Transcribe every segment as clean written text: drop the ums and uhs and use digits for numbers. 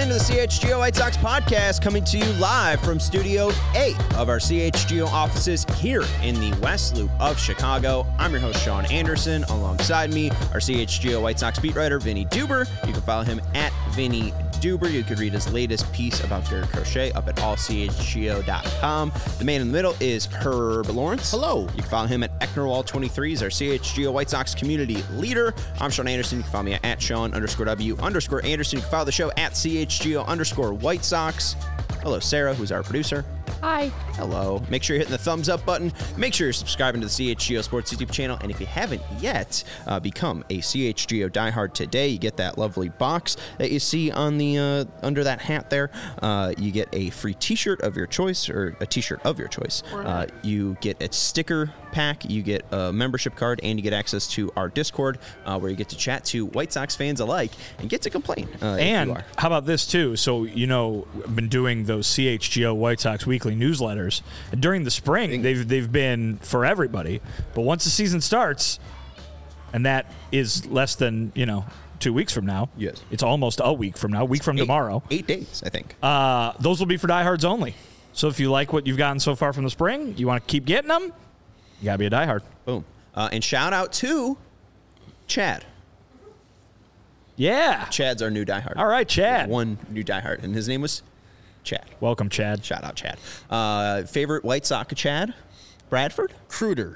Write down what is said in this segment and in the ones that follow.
to the CHGO White Sox podcast, coming to you live from Studio A of our CHGO offices here in the West Loop of Chicago. I'm your host, Sean Anderson. Alongside me, our CHGO White Sox beat writer, Vinny Duber. You can follow him at Vinny Duber. You could read his latest piece about Garrett Crochet up at allchgo.com. The man in the middle is Herb Lawrence. Hello. You can follow him at Ecknerwall23. He's our CHGO White Sox community leader. I'm Sean Anderson. You can follow me at Sean_W_Anderson. You can follow the show at CHGO_White Sox. Hello, Sarah, who's our producer. Hi. Hello. Make sure you're hitting the thumbs up button. Make sure you're subscribing to the CHGO Sports YouTube channel. And if you haven't yet, become a CHGO diehard today. You get that lovely box that you see on the under that hat there. You get a free t-shirt of your choice, or a t-shirt of your choice. You get a sticker pack, you get a membership card, and you get access to our Discord where you get to chat to White Sox fans alike and get to complain. And how about this too? So, I've been doing those CHGO White Sox weekly newsletters. During the spring, they've been for everybody. But once the season starts, and that is less than 2 weeks from now. Yes, it's almost a week from now. Tomorrow. 8 days, I think. Those will be for diehards only. So if you like what you've gotten so far from the spring, you want to keep getting them, you gotta be a diehard. Boom. And shout out to Chad. Yeah, Chad's our new diehard. All right, Chad. One new diehard, and his name was Chad. Welcome, Chad. Shout out, Chad. Favorite White Sox Chad? Bradford? Cruder.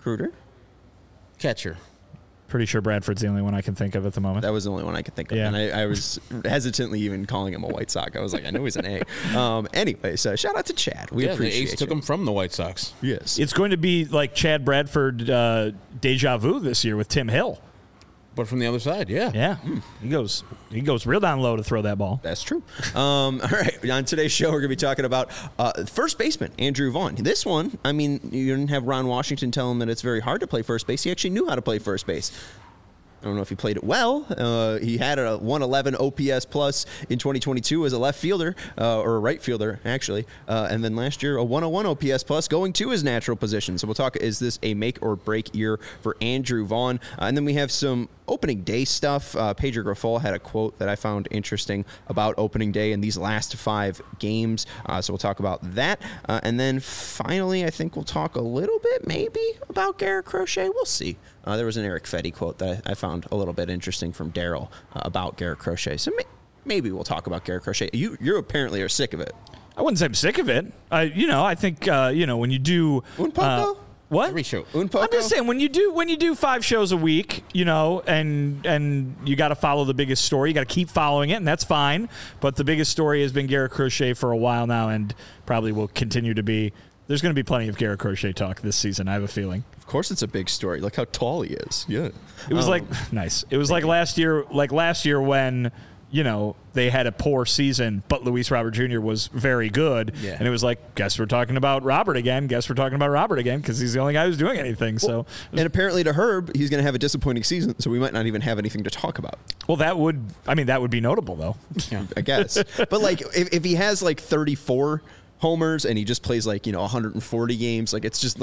Catcher. Pretty sure Bradford's the only one I can think of at the moment. That was the only one I could think of. Yeah. And I was hesitantly even calling him a White Sox. I was like, I know he's an A. Anyway, so shout out to Chad. We appreciate the A's took him from the White Sox. Yes. It's going to be like Chad Bradford deja vu this year with Tim Hill. But from the other side, yeah. Yeah. He goes real down low to throw that ball. That's true. All right. On today's show, we're going to be talking about first baseman, Andrew Vaughn. This one, I mean, you didn't have Ron Washington tell him that it's very hard to play first base. He actually knew how to play first base. I don't know if he played it well. He had a 111 OPS plus in 2022 as a left fielder, or a right fielder, actually. And then last year, a 101 OPS plus going to his natural position. So we'll talk, is this a make or break year for Andrew Vaughn? And then we have some opening day stuff. Pedro Grifol had a quote that I found interesting about opening day in these last 5 games. So we'll talk about that. And then finally, I think we'll talk a little bit maybe about Garrett Crochet. We'll see. There was an Eric Fetty quote that I found a little bit interesting from Daryl about Garrett Crochet. So maybe we'll talk about Garrett Crochet. You apparently are sick of it. I wouldn't say I'm sick of it. I think when you do Un poco? What? Every show. Un poco? I'm just saying when you do 5 shows a week, and you got to follow the biggest story. You got to keep following it, and that's fine. But the biggest story has been Garrett Crochet for a while now, and probably will continue to be. There's going to be plenty of Garrett Crochet talk this season, I have a feeling. Of course it's a big story. Look how tall he is. Yeah. It was nice. It was like last year when, they had a poor season, but Luis Robert Jr. was very good. Yeah. And it was like, guess we're talking about Robert again. Because he's the only guy who's doing anything. Well, and apparently to Herb, he's going to have a disappointing season, so we might not even have anything to talk about. Well, that would be notable, though. Yeah. I guess. But if he has 34 homers and he just plays 140 games, it's just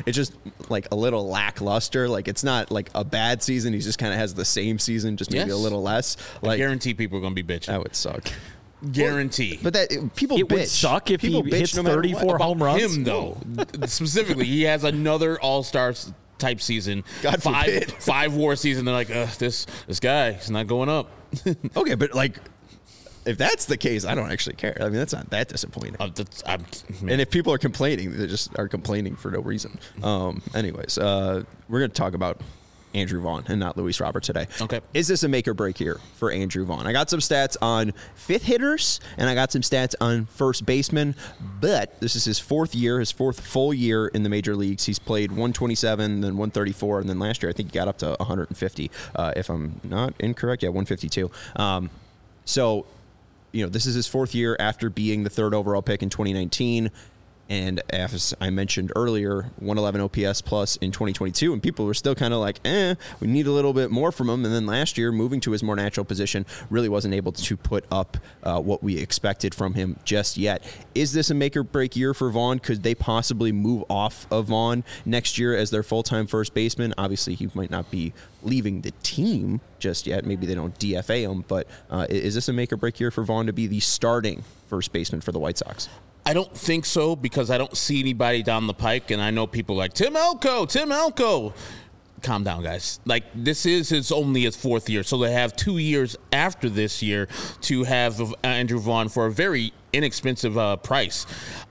a little lackluster. It's not a bad season. He just kind of has the same season, just maybe a little less. I guarantee people are going to be bitching. That would suck. Guarantee. But people bitch. It would suck if he hits 34 home runs. Him though, specifically, he has another all-star type season. God forbid. 5 WAR season. They're like, this guy, he's not going up. Okay, but if that's the case, I don't actually care. I mean, that's not that disappointing. And if people are complaining, they just are complaining for no reason. Anyways, we're going to talk about Andrew Vaughn and not Luis Robert today. Okay. Is this a make or break here for Andrew Vaughn? I got some stats on 5th hitters, and I got some stats on first baseman, but this is his 4th year, his 4th full year in the major leagues. He's played 127, then 134, and then last year I think he got up to 150, if I'm not incorrect. Yeah, 152. So, this is his 4th year after being the 3rd overall pick in 2019. And as I mentioned earlier, 111 OPS plus in 2022, and people were still kind of like, we need a little bit more from him. And then last year, moving to his more natural position, really wasn't able to put up what we expected from him just yet. Is this a make or break year for Vaughn? Could they possibly move off of Vaughn next year as their full-time first baseman? Obviously, he might not be leaving the team just yet. Maybe they don't DFA him, but is this a make or break year for Vaughn to be the starting first baseman for the White Sox? I don't think so, because I don't see anybody down the pike, and I know people like Tim Elko. Calm down, guys. Like, this is only his fourth year, so they have 2 years after this year to have Andrew Vaughn for a very inexpensive price.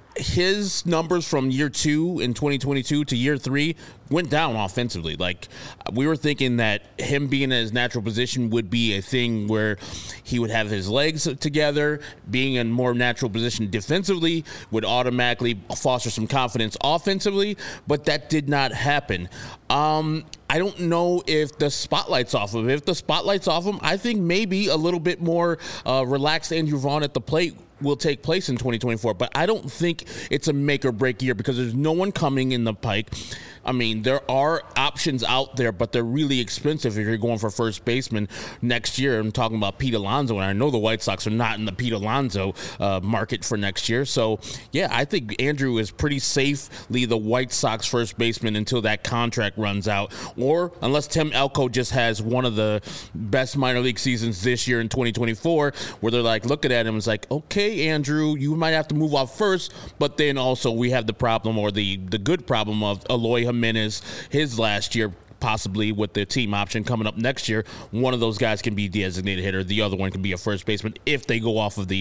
His numbers from year 2 in 2022 to year 3 went down offensively. Like, we were thinking that him being in his natural position would be a thing where he would have his legs together. Being in more natural position defensively would automatically foster some confidence offensively, but that did not happen. I don't know if the spotlight's off of him. If the spotlight's off him, I think maybe a little bit more relaxed Andrew Vaughn at the plate will take place in 2024, but I don't think it's a make or break year because there's no one coming in the pike. I mean, there are options out there, but they're really expensive if you're going for first baseman next year. I'm talking about Pete Alonso, and I know the White Sox are not in the Pete Alonso market for next year. So, yeah, I think Andrew is pretty safely the White Sox first baseman until that contract runs out, or unless Tim Elko just has one of the best minor league seasons this year in 2024, where they're like looking at him and it's like, okay, Andrew, you might have to move off first, but then also we have the problem, or the good problem, of Eloy Jimenez his last year, possibly with the team option coming up next year. One of those guys can be designated hitter. The other one can be a first baseman if they go off of the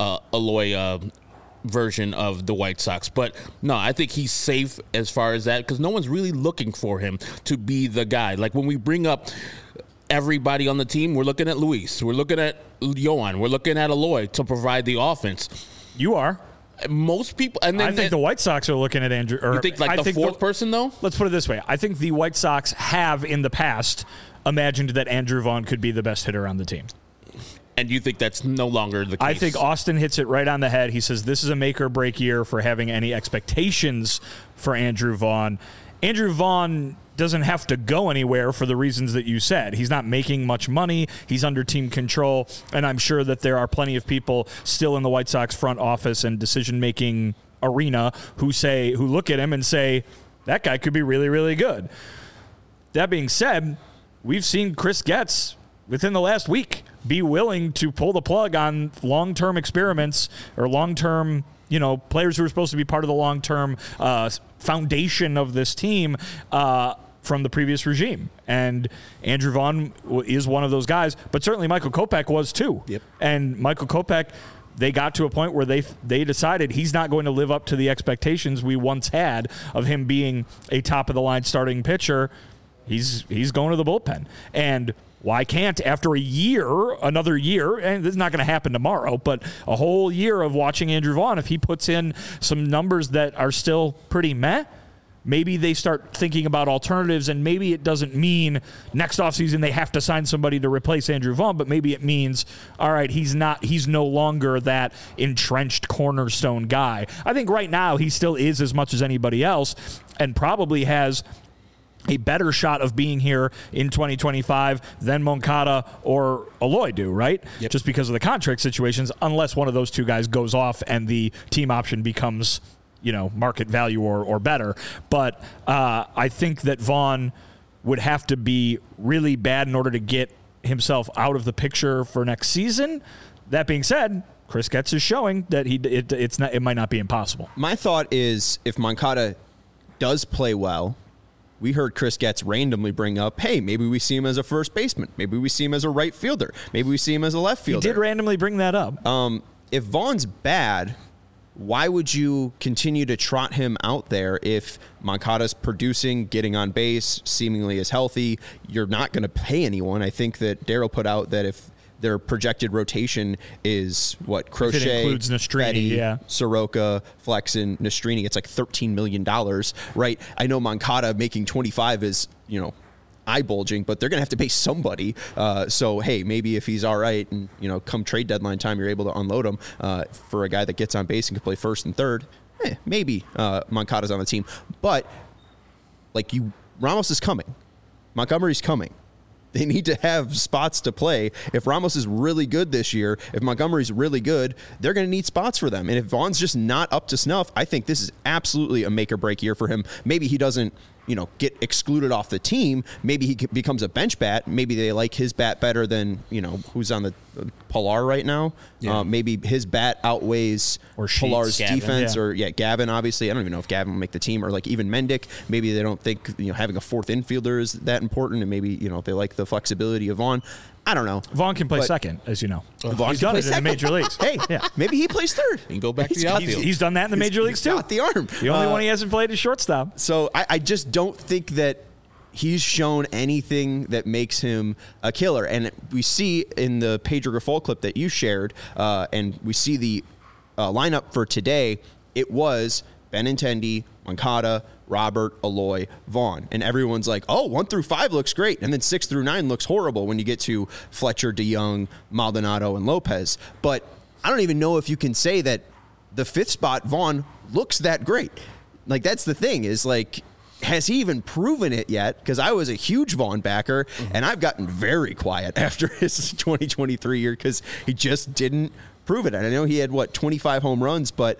Eloy version of the White Sox. But no, I think he's safe as far as that, because no one's really looking for him to be the guy. Like, when we bring up everybody on the team, we're looking at Luis, we're looking at Yohan, we're looking at Eloy to provide the offense. You are. Most people, and then I think the White Sox are looking at Andrew. You think like the fourth person, though? Let's put it this way. I think the White Sox have in the past imagined that Andrew Vaughn could be the best hitter on the team. And you think that's no longer the case? I think Austin hits it right on the head. He says this is a make or break year for having any expectations for Andrew Vaughn. Andrew Vaughn doesn't have to go anywhere for the reasons that you said. He's not making much money. He's under team control. And I'm sure that there are plenty of people still in the White Sox front office and decision-making arena who look at him and say, that guy could be really, really good. That being said, we've seen Chris Getz within the last week be willing to pull the plug on long-term experiments or long-term, players who are supposed to be part of the long-term foundation of this team from the previous regime. And Andrew Vaughn is one of those guys, but certainly Michael Kopech was too. Yep. And Michael Kopech, they got to a point where they decided he's not going to live up to the expectations we once had of him being a top-of-the-line starting pitcher. He's going to the bullpen. And why can't, after another year, and this is not going to happen tomorrow, but a whole year of watching Andrew Vaughn, if he puts in some numbers that are still pretty meh, maybe they start thinking about alternatives, and maybe it doesn't mean next offseason they have to sign somebody to replace Andrew Vaughn, but maybe it means, all right, he's no longer that entrenched cornerstone guy. I think right now he still is as much as anybody else, and probably has a better shot of being here in 2025 than Moncada or Eloy do, right? Yep. Just because of the contract situations, unless one of those two guys goes off and the team option becomes, market value or better. But I think that Vaughn would have to be really bad in order to get himself out of the picture for next season. That being said, Chris Getz is showing that it might not be impossible. My thought is, if Moncada does play well, we heard Chris Getz randomly bring up, hey, maybe we see him as a first baseman. Maybe we see him as a right fielder. Maybe we see him as a left fielder. He did randomly bring that up. If Vaughn's bad, why would you continue to trot him out there if Moncada's producing, getting on base, seemingly is healthy? You're not going to pay anyone. I think that Daryl put out that if their projected rotation is Crochet, if it includes Nastrini, Petty, Soroka, Flexen, Nastrini, it's like $13 million, right? I know Moncada making 25 is, eye bulging, but they're going to have to pay somebody. So, hey, maybe if he's all right and, come trade deadline time, you're able to unload him for a guy that gets on base and can play first and third. maybe Moncada's on the team. But, Ramos is coming. Montgomery's coming. They need to have spots to play. If Ramos is really good this year, if Montgomery's really good, they're going to need spots for them. And if Vaughn's just not up to snuff, I think this is absolutely a make or break year for him. Maybe he doesn't, get excluded off the team. Maybe he becomes a bench bat. Maybe they like his bat better than, who's on the Pilar right now. Yeah. Maybe his bat outweighs or Pilar's Gavin, defense yeah. or Gavin, obviously. I don't even know if Gavin will make the team, or even Mendick. Maybe they don't think, having a fourth infielder is that important, and maybe, they like the flexibility of Vaughn. I don't know. Vaughn can play second, as you know. Vaughn He's can done play it in the second. major leagues. Hey, maybe he plays third. He can go back to the outfield. He's done that in the major leagues too. He's got the arm. The only one he hasn't played is shortstop. So I just don't think that he's shown anything that makes him a killer. And we see in the Pedro Grifol clip that you shared, and we see the lineup for today, it was Benintendi, Moncada, Robert, Eloy, Vaughn. And everyone's like, 1 through 5 looks great. And then 6 through 9 looks horrible when you get to Fletcher, DeYoung, Maldonado, and Lopez. But I don't even know if you can say that the 5th spot, Vaughn, looks that great. That's the thing is has he even proven it yet? Because I was a huge Vaughn backer, and I've gotten very quiet after his 2023 year because he just didn't prove it. And I know he had, 25 home runs, but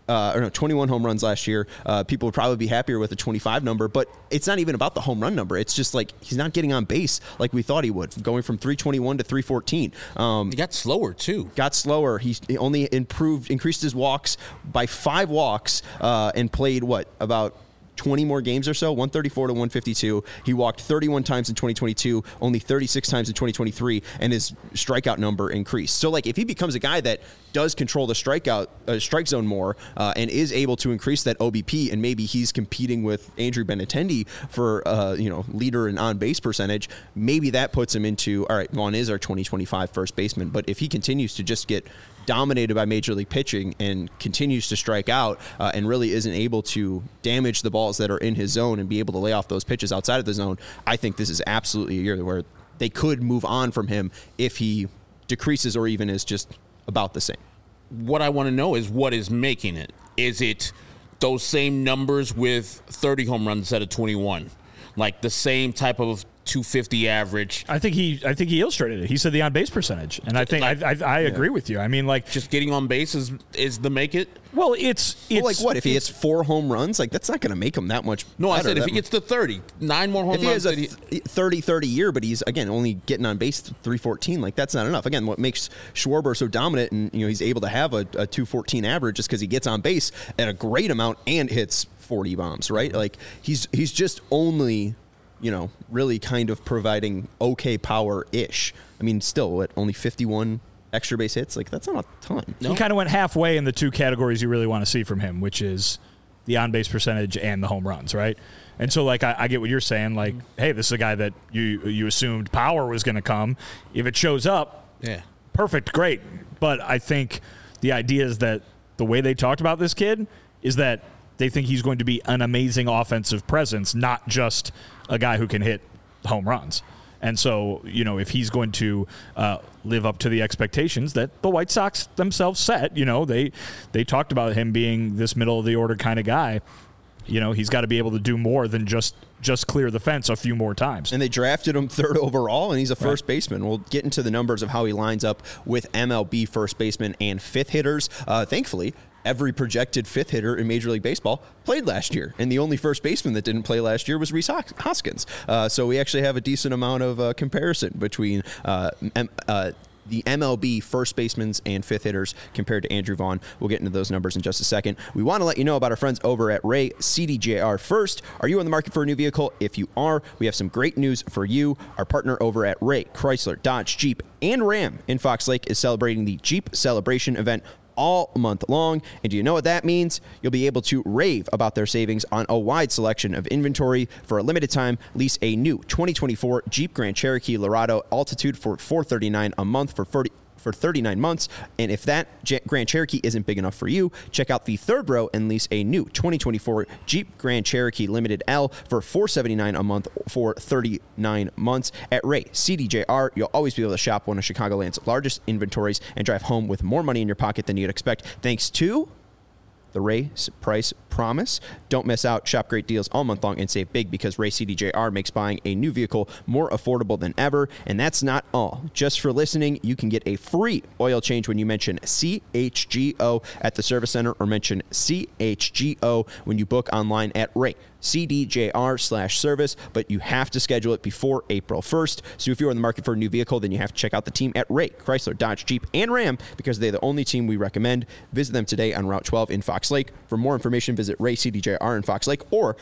21 home runs last year. People would probably be happier with a 25 number, but it's not even about the home run number. It's just he's not getting on base like we thought he would, going from 321 to 314. He got slower too. Got slower. He only increased his walks by 5 walks, and played about 20 more games or so, 134 to 152. He walked 31 times in 2022, only 36 times in 2023, and his strikeout number increased. So, if he becomes a guy that does control the strike zone more, and is able to increase that OBP, and maybe he's competing with Andrew Benintendi for, leader and on-base percentage, maybe that puts him into, all right, Vaughn is our 2025 first baseman. But if he continues to just get dominated by major league pitching and continues to strike out, and really isn't able to damage the balls that are in his zone and be able to lay off those pitches outside of the zone, I think this is absolutely a year where they could move on from him if he decreases or even is just about the same. What I want to know is what is making it. Is it those same numbers with 30 home runs instead of 21? The same type of 250 average. I think he illustrated it. He said the on base percentage, and I think I agree with you. I mean, just getting on base is the make it. Well, it's what if he hits 4 home runs? That's not going to make him that much. No, better. I said if he gets to 30, 9 more home runs. If he has a 30 year, but he's again only getting on base 314, that's not enough. Again, what makes Schwarber so dominant, and he's able to have a 214 average, just because he gets on base at a great amount and hits 40 bombs, right? He's just only, really kind of providing okay power-ish. I mean, still, only 51 extra base hits? That's not a ton. No. He kind of went halfway in the 2 categories you really want to see from him, which is the on-base percentage and the home runs, right? And so, I get what you're saying. Hey, this is a guy that you assumed power was going to come. If it shows up, perfect, great. But I think the idea is that the way they talked about this kid is that they think he's going to be an amazing offensive presence, not just a guy who can hit home runs. And so, if he's going to live up to the expectations that the White Sox themselves set, they talked about him being this middle-of-the-order kind of guy. He's got to be able to do more than just clear the fence a few more times. And they drafted him 3rd overall, and he's a first baseman. We'll get into the numbers of how he lines up with MLB first baseman and 5th hitters. Thankfully, every projected 5th hitter in Major League Baseball played last year, and the only first baseman that didn't play last year was Rhys Hoskins. So we actually have a decent amount of comparison between the MLB first basemen and 5th hitters compared to Andrew Vaughn. We'll get into those numbers in just a second. We want to let you know about our friends over at Ray CDJR First. Are you on the market for a new vehicle? If you are, we have some great news for you. Our partner over at Ray Chrysler, Dodge, Jeep, and Ram in Fox Lake is celebrating the Jeep Celebration event all month long. And do you know what that means? You'll be able to rave about their savings on a wide selection of inventory. For a limited time, lease a new 2024 Jeep Grand Cherokee Laredo Altitude for $439 a month for 39 months. And if that Grand Cherokee isn't big enough for you, check out the 3rd row and lease a new 2024 Jeep Grand Cherokee Limited L for $479 a month for 39 months. At Ray CDJR, you'll always be able to shop one of Chicagoland's largest inventories and drive home with more money in your pocket than you'd expect, thanks to the Ray Price Promise. Don't miss out. Shop great deals all month long and save big because Ray CDJR makes buying a new vehicle more affordable than ever. And that's not all. Just for listening, you can get a free oil change when you mention CHGO at the service center or mention CHGO when you book online at Ray CDJR/service, but you have to schedule it before April 1st. So if you're in the market for a new vehicle, then you have to check out the team at Ray, Chrysler, Dodge, Jeep, and Ram because they're the only team we recommend. Visit them today on Route 12 in Fox Lake. For more information, visit Ray CDJR in Fox Lake or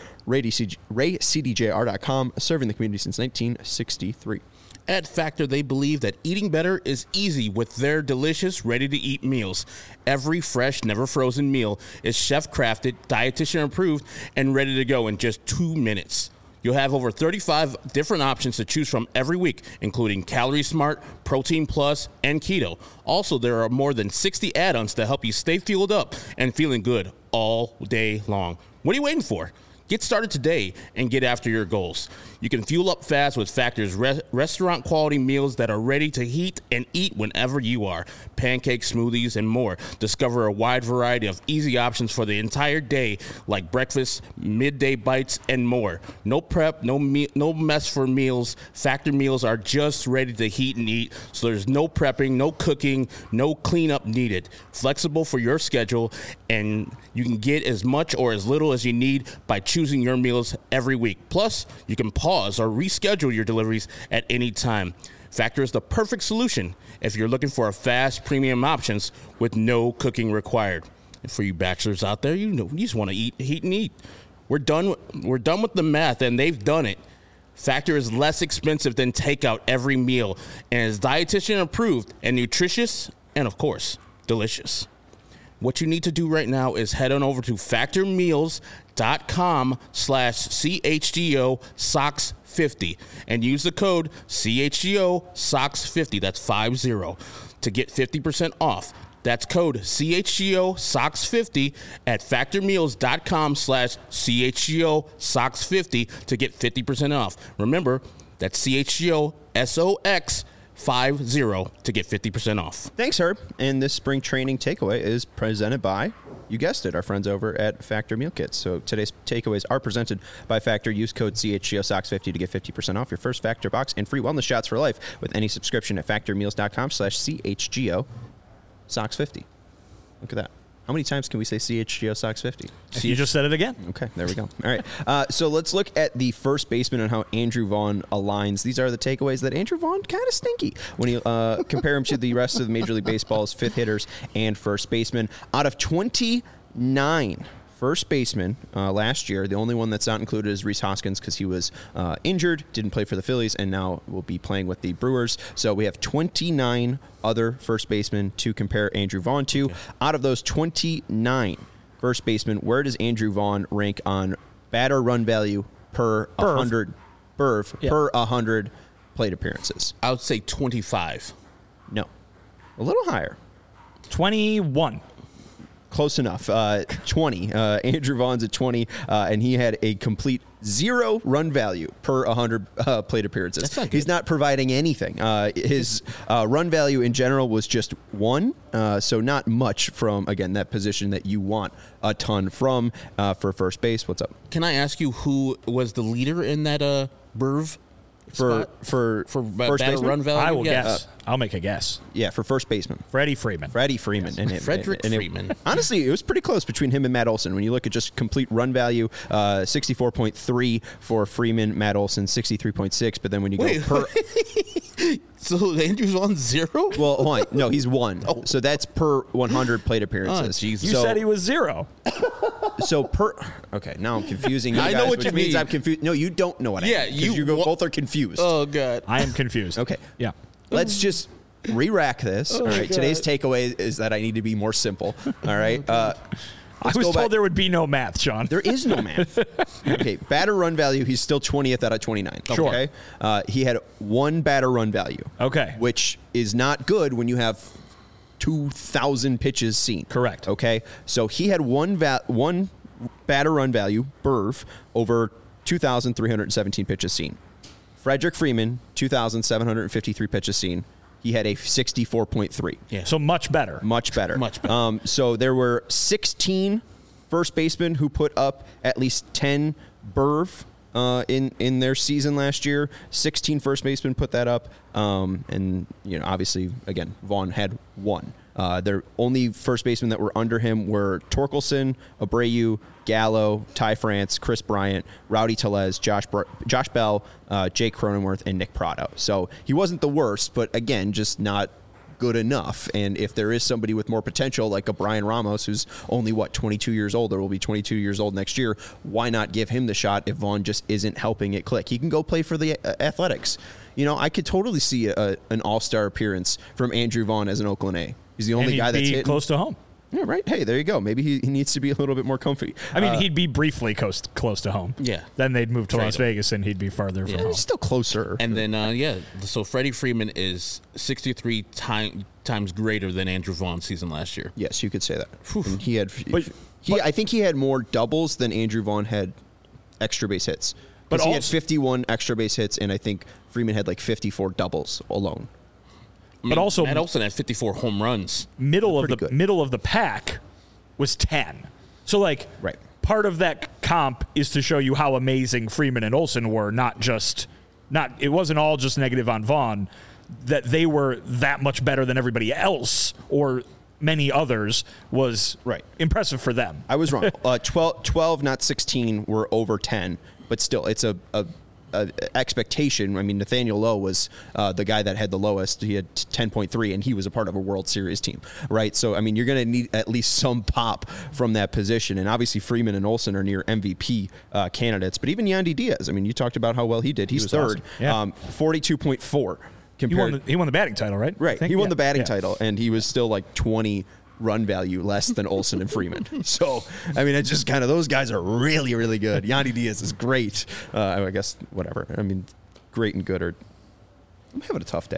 RayCDJR.com, serving the community since 1963. At Factor, they believe that eating better is easy with their delicious, ready-to-eat meals. Every fresh, never-frozen meal is chef-crafted, dietitian-approved, and ready to go in just 2 minutes. You'll have over 35 different options to choose from every week, including Calorie Smart, Protein Plus, and Keto. Also, there are more than 60 add-ons to help you stay fueled up and feeling good all day long. What are you waiting for? Get started today and get after your goals. You can fuel up fast with Factor's restaurant-quality meals that are ready to heat and eat whenever you are. Pancakes, smoothies, and more. Discover a wide variety of easy options for the entire day, like breakfast, midday bites, and more. No prep, no mess for meals. Factor meals are just ready to heat and eat, so there's no prepping, no cooking, no cleanup needed. Flexible for your schedule, and you can get as much or as little as you need by choosing your meals every week. Plus, you can pause or reschedule your deliveries at any time. Factor is the perfect solution if you're looking for a fast, premium options with no cooking required. And for you bachelors out there, you just want to heat and eat. We're done with the math, and they've done it. Factor is less expensive than takeout every meal and is dietitian approved and nutritious and, of course, delicious. What you need to do right now is head on over to factormeals.com/CHGO-SOCKS50 and use the code CHGO-SOCKS50, that's 50, to get 50% off. That's code CHGO-SOCKS50 at factormeals.com/CHGO-SOCKS50 to get 50% off. Remember, that's CHGO-SOCKS50 to get 50% off. Thanks, Herb. And this spring training takeaway is presented by, you guessed it, our friends over at Factor Meal Kits. So today's takeaways are presented by Factor. Use code CHGOSOCKS50 to get 50% off your first Factor box and free wellness shots for life with any subscription at factormeals.com/CHGOSOCKS50. Look at that. How many times can we say CHGOSOCKS50? You just said it again. Okay, there we go. All right. So let's look at the first baseman and how Andrew Vaughn aligns. These are the takeaways that Andrew Vaughn kind of stinky when you compare him to the rest of the Major League Baseball's fifth hitters and first baseman. Out of 29 first baseman last year, the only one that's not included is Rhys Hoskins because he was injured, didn't play for the Phillies, and now will be playing with the Brewers. So we have 29 other first basemen to compare Andrew Vaughn to. Okay. Out of those 29 first basemen, where does Andrew Vaughn rank on batter run value per 100 per 100 plate appearances? I would say 25. No, a little higher. 21. Close enough. 20. Andrew Vaughn's at 20, and he had a complete 0 run value per 100 plate appearances. That's not good. He's not providing anything. His run value in general was just 1, so not much from, again, that position that you want a ton from for first base. What's up? Can I ask you who was the leader in that Burv? For first baseman? Run value? I will guess. I'll make a guess. Yeah, for first baseman. Freddie Freeman. Yes. And Freeman. Honestly, it was pretty close between him and Matt Olson. When you look at just complete run value, 64.3 for Freeman, Matt Olson 63.6. But then when you go per... So Andrew's on 0? Well, hold on. No, he's 1. Oh. So that's per 100 plate appearances. Oh, Jesus. You said he was 0. So per... Okay, now I'm confusing you guys, I know what which you means mean. I'm confused. No, you don't know what I mean. Yeah, you both are confused. Oh, God. I am confused. Okay. Yeah. Let's just re-rack this. All right. God. Today's takeaway is that I need to be more simple. All right. I was told there would be no math, Sean. There is no math. Okay. Batter run value, he's still 20th out of 29. Sure. Okay. He had 1 batter run value. Okay. Which is not good when you have 2,000 pitches seen. Correct. Okay. So he had one batter run value, Burv, over 2,317 pitches seen. Frederick Freeman, 2,753 pitches seen. He had a 64.3. Yeah. So much better. Much better. Much better. So there were 16 first baseman who put up at least 10 BRV in their season last year. 16 first basemen put that up. And, obviously, again, Vaughn had 1. Their only first basemen that were under him were Torkelson, Abreu, Gallo, Ty France, Chris Bryant, Rowdy Tellez, Josh Bell, Jake Cronenworth, and Nick Pratto. So he wasn't the worst, but again, just not good enough. And if there is somebody with more potential, like a Brian Ramos, who's only 22 years old, or will be 22 years old next year, why not give him the shot if Vaughn just isn't helping it click? He can go play for the Athletics. I could totally see an all-star appearance from Andrew Vaughn as an Oakland A. He's the only guy that's hitting close to home. Yeah, right. Hey, there you go. Maybe he needs to be a little bit more comfy. I mean, he'd be briefly close to home. Yeah. Then they'd move to Trade Las him. Vegas, and he'd be farther from home. He's still closer. And then, so Freddie Freeman is 63 times greater than Andrew Vaughn's season last year. Yes, you could say that. And he had, I think he had more doubles than Andrew Vaughn had extra base hits. But he had 51 extra base hits, and I think Freeman had 54 doubles alone. But also, Matt Olson had 54 home runs. Middle of the pack was 10. So right. Part of that comp is to show you how amazing Freeman and Olson were, it wasn't all just negative on Vaughn, that they were that much better than everybody else or many others was impressive for them. I was wrong. 12, not 16, were over 10, but still, it's a expectation. I mean, Nathaniel Lowe was the guy that had the lowest. He had 10.3, and he was a part of a World Series team, right? So, I mean, you're going to need at least some pop from that position. And obviously, Freeman and Olson are near MVP candidates. But even Yandy Diaz, I mean, you talked about how well he did. He's third, awesome. 42.4. He won the batting title, right? Right. He won the batting title, and he was still 20 run value less than Olson and Freeman. So, I mean, it's just kind of, those guys are really, really good. Yandy Diaz is great. I guess, whatever. I mean, great and good are, I'm having a tough day.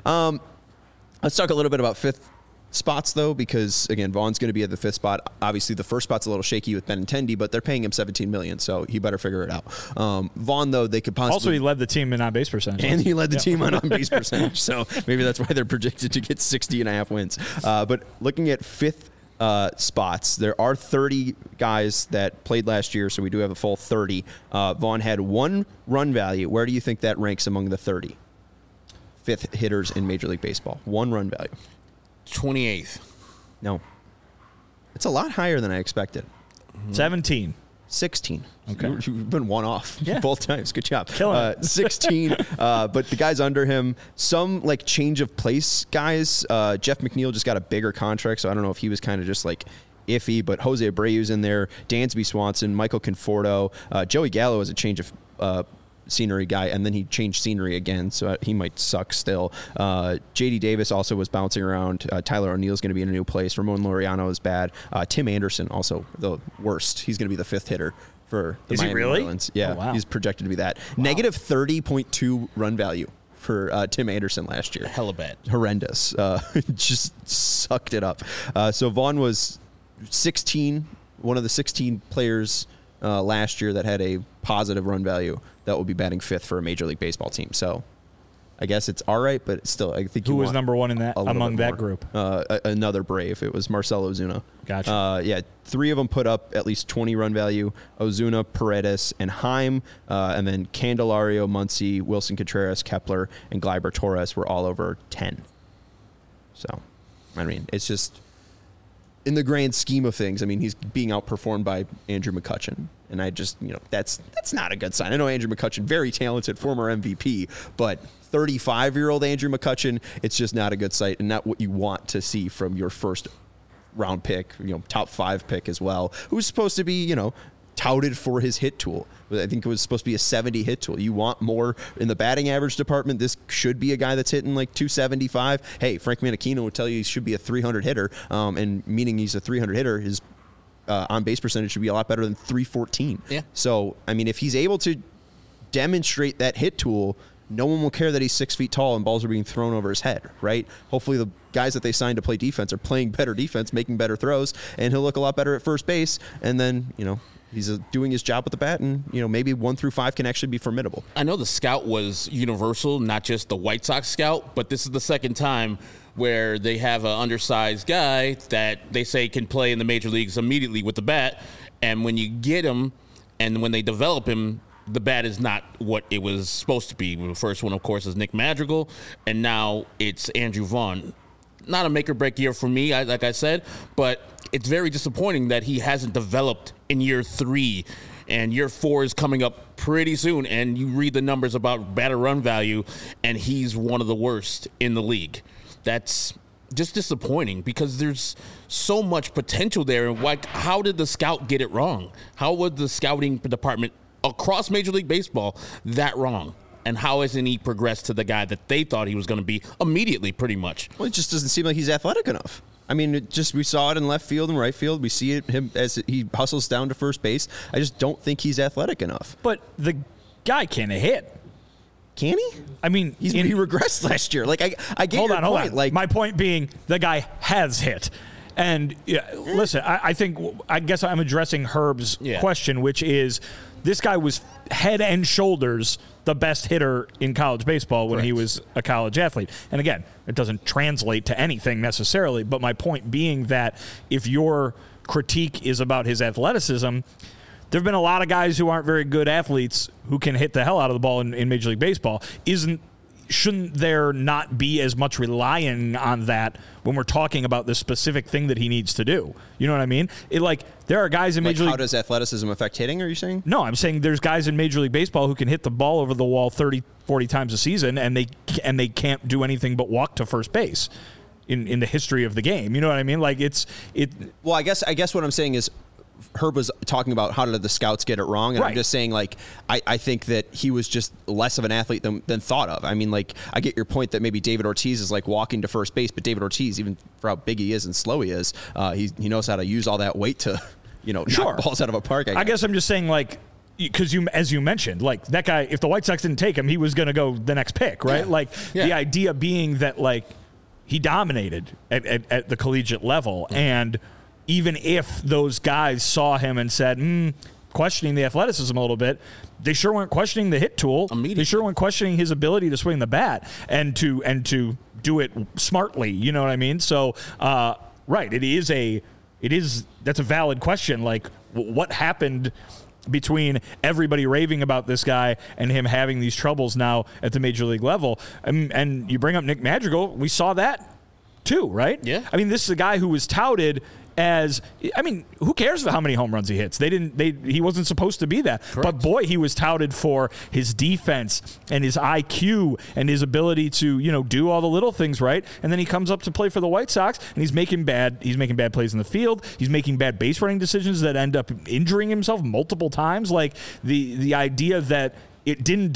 Let's talk a little bit about fifth spots, though, because, again, Vaughn's going to be at the fifth spot. Obviously, the first spot's a little shaky with Benintendi, but they're paying him $17 million, so he better figure it out. Vaughn, though, they could possibly... Also, he led the team in on-base percentage. And he led the team on base percentage, so maybe that's why they're projected to get 60.5 wins. But looking at fifth spots, there are 30 guys that played last year, so we do have a full 30. Vaughn had 1 run value. Where do you think that ranks among the 30 fifth hitters in Major League Baseball? 1 run value. 28th. No. It's a lot higher than I expected. 17. 16. Okay. You've been one off both times. Good job. Killing it. 16. But the guys under him, some change of place guys. Jeff McNeil just got a bigger contract, so I don't know if he was kind of just iffy, but Jose Abreu's in there, Dansby Swanson, Michael Conforto, Joey Gallo is a change of scenery guy, and then he changed scenery again, so he might suck still. J.D. Davis also was bouncing around. Tyler O'Neill's going to be in a new place. Ramon Laureano is bad. Tim Anderson, also the worst. He's going to be the fifth hitter for the Miami Marlins. Yeah, oh, wow. He's projected to be that. Wow. Negative 30.2 run value for Tim Anderson last year. Hella bad. Horrendous. Just sucked it up. So Vaughn was 16, one of the 16 players last year that had a positive run value that will be batting fifth for a Major League Baseball team. So I guess it's all right, but still, I think who was number one in that among that group? Another Brave. It was Marcell Ozuna. Gotcha. 3 of them put up at least 20 run value. Ozuna, Paredes, and Heim, and then Candelario, Muncy, Wilson Contreras, Kepler, and Gleyber Torres were all over 10. So, I mean, it's just, in the grand scheme of things, I mean, he's being outperformed by Andrew McCutchen. And I just, that's not a good sign. I know Andrew McCutchen, very talented, former MVP, but 35-year-old Andrew McCutchen, it's just not a good sight and not what you want to see from your first round pick, top 5 pick as well, who's supposed to be, touted for his hit tool. I think it was supposed to be a 70 hit tool. You want more in the batting average department. This should be a guy that's hitting 275. Hey, Frank Menechino would tell you he should be a 300 hitter, and meaning he's a 300 hitter, his on-base percentage should be a lot better than 314. Yeah. So, I mean, if he's able to demonstrate that hit tool, no one will care that he's 6 feet tall and balls are being thrown over his head, right? Hopefully the guys that they signed to play defense are playing better defense, making better throws, and he'll look a lot better at first base, and then, he's doing his job with the bat, and maybe 1 through 5 can actually be formidable. I know the scout was universal, not just the White Sox scout, but this is the second time where they have an undersized guy that they say can play in the major leagues immediately with the bat, and when you get him and when they develop him, the bat is not what it was supposed to be. The first one, of course, is Nick Madrigal, and now it's Andrew Vaughn. Not a make-or-break year for me, like I said, but it's very disappointing that he hasn't developed in year 3, and year 4 is coming up pretty soon, and you read the numbers about batter run value, and he's one of the worst in the league. That's just disappointing because there's so much potential there, and how did the scout get it wrong? How was the scouting department across Major League Baseball that wrong? And how hasn't he progressed to the guy that they thought he was going to be immediately, pretty much? Well, it just doesn't seem like he's athletic enough. I mean, we saw it in left field and right field. We see him as he hustles down to first base. I just don't think he's athletic enough. But the guy can't hit. Can he? I mean, he regressed last year. Like I get hold your on. point. Like my point being, the guy has hit. And listen, I guess I'm addressing Herb's question, which is this guy was head and shoulders the best hitter in college baseball when he was a college athlete. And again, it doesn't translate to anything necessarily, but my point being that if your critique is about his athleticism, there have been a lot of guys who aren't very good athletes who can hit the hell out of the ball in Major League Baseball. Shouldn't there not be as much relying on that when we're talking about the specific thing that he needs to do? You know what I mean? There are guys in Major League... How does athleticism affect hitting, are you saying? No, I'm saying there's guys in Major League Baseball who can hit the ball over the wall 30, 40 times a season, and they can't do anything but walk to first base in the history of the game. You know what I mean? Well, I guess what I'm saying is Herb was talking about how did the scouts get it wrong, and I'm just saying, I think that he was just less of an athlete than thought of. I mean, I get your point that maybe David Ortiz is walking to first base, but David Ortiz, even for how big he is and slow he is, he knows how to use all that weight to, knock balls out of a park. I guess I'm just saying, because as you mentioned, that guy, if the White Sox didn't take him, he was going to go the next pick, right? The idea being that, he dominated at the collegiate level, and even if those guys saw him and said, questioning the athleticism a little bit, they sure weren't questioning the hit tool. They sure weren't questioning his ability to swing the bat and to do it smartly. You know what I mean? So, that's a valid question. What happened between everybody raving about this guy and him having these troubles now at the major league level? And you bring up Nick Madrigal, we saw that too, right? Yeah. I mean, this is a guy who was touted as, who cares how many home runs he hits? He wasn't supposed to be that. Correct. But boy, he was touted for his defense and his IQ and his ability to, do all the little things right. And then he comes up to play for the White Sox and he's making bad plays in the field. He's making bad base running decisions that end up injuring himself multiple times. The idea that he didn't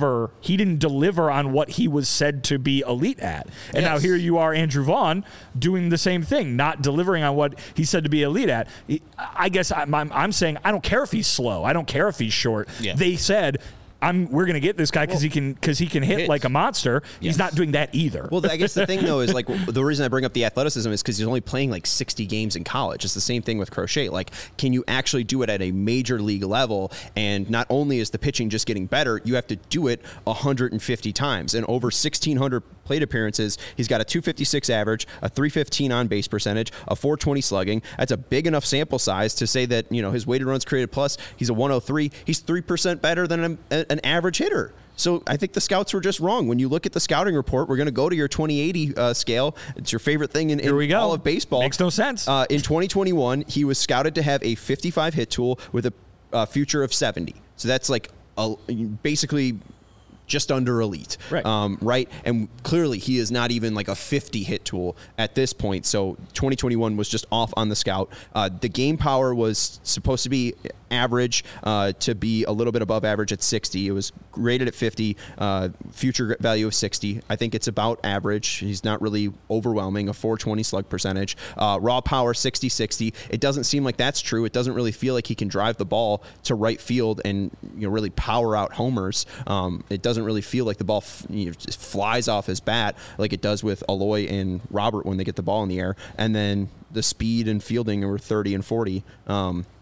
deliver on what he was said to be elite at. And now here you are, Andrew Vaughn, doing the same thing, not delivering on what he said to be elite at. I guess I'm saying I don't care if he's slow. I don't care if he's short. Yeah. They said, we're going to get this guy because he can hit like a monster. He's not doing that either. Well, I guess the thing, though, is the reason I bring up the athleticism is because he's only playing 60 games in college. It's the same thing with Crochet. Can you actually do it at a major league level? And not only is the pitching just getting better, you have to do it 150 times. And over 1,600 plate appearances, he's got a 256 average, a 315 on base percentage, a 420 slugging. That's a big enough sample size to say that, his weighted runs created plus, he's a 103. He's 3% better than an average hitter. So I think the scouts were just wrong. When you look at the scouting report, we're going to go to your 2080 scale. It's your favorite thing in all of baseball. Makes no sense. In 2021, he was scouted to have a 55 hit tool with a future of 70. So that's basically just under elite. Right. Right. And clearly he is not even a 50 hit tool at this point. So 2021 was just off on the scout. The game power was supposed to be average to be a little bit above average at 60. It was rated at 50, future value of 60. I think it's about average. He's not really overwhelming, a 420 slug percentage. Raw power 60-60. It doesn't seem like that's true. It doesn't really feel like he can drive the ball to right field and really power out homers. It doesn't really feel like the ball just flies off his bat like it does with Aloy and Robert when they get the ball in the air. And then the speed and fielding were 30 and 40.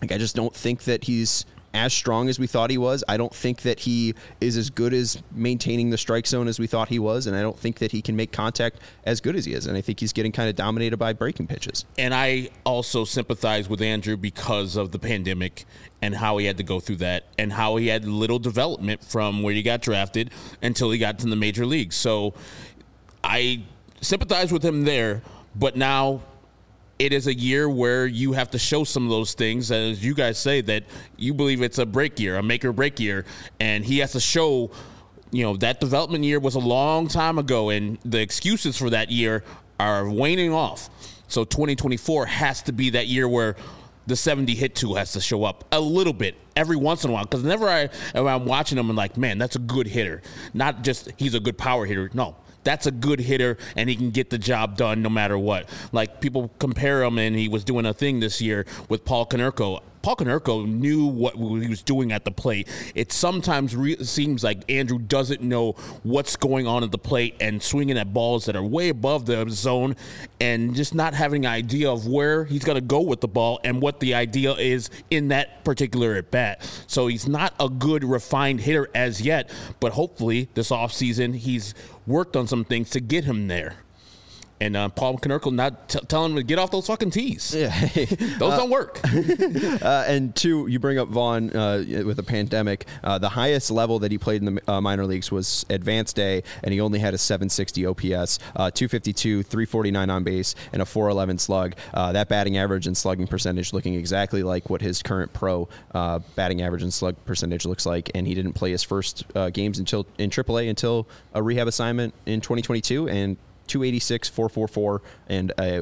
Like, I just don't think that he's as strong as we thought he was. I don't think that he is as good as maintaining the strike zone as we thought he was, and I don't think that he can make contact as good as he is. And I think he's getting kind of dominated by breaking pitches. And I also sympathize with Andrew because of the pandemic and how he had to go through that and how he had little development from where he got drafted until he got to the major leagues. So I sympathize with him there, but now it is a year where you have to show some of those things, as you guys say, that you believe it's a break year, a make or break year, and he has to show, that development year was a long time ago, and the excuses for that year are waning off. So 2024 has to be that year where the 70 hit tool has to show up a little bit every once in a while, because whenever I'm watching him, I'm like, man, that's a good hitter. Not just he's a good power hitter. No. That's a good hitter, and he can get the job done no matter what. Like, people compare him, and he was doing a thing this year with Paul Konerko. Paul Konerko knew what he was doing at the plate. It sometimes seems like Andrew doesn't know what's going on at the plate and swinging at balls that are way above the zone and just not having an idea of where he's going to go with the ball and what the idea is in that particular at bat. So he's not a good, refined hitter as yet, but hopefully this offseason he's worked on some things to get him there. And Paul Konerko not telling him to get off those fucking tees. Yeah. Those don't work. And two, you bring up Vaughn with the pandemic. The highest level that he played in the minor leagues was Advanced A, and he only had a 760 OPS, 252, 349 on base, and a 411 slug. That batting average and slugging percentage looking exactly like what his current pro batting average and slug percentage looks like. And he didn't play his first games in AAA until a rehab assignment in 2022, and 286, 444, and a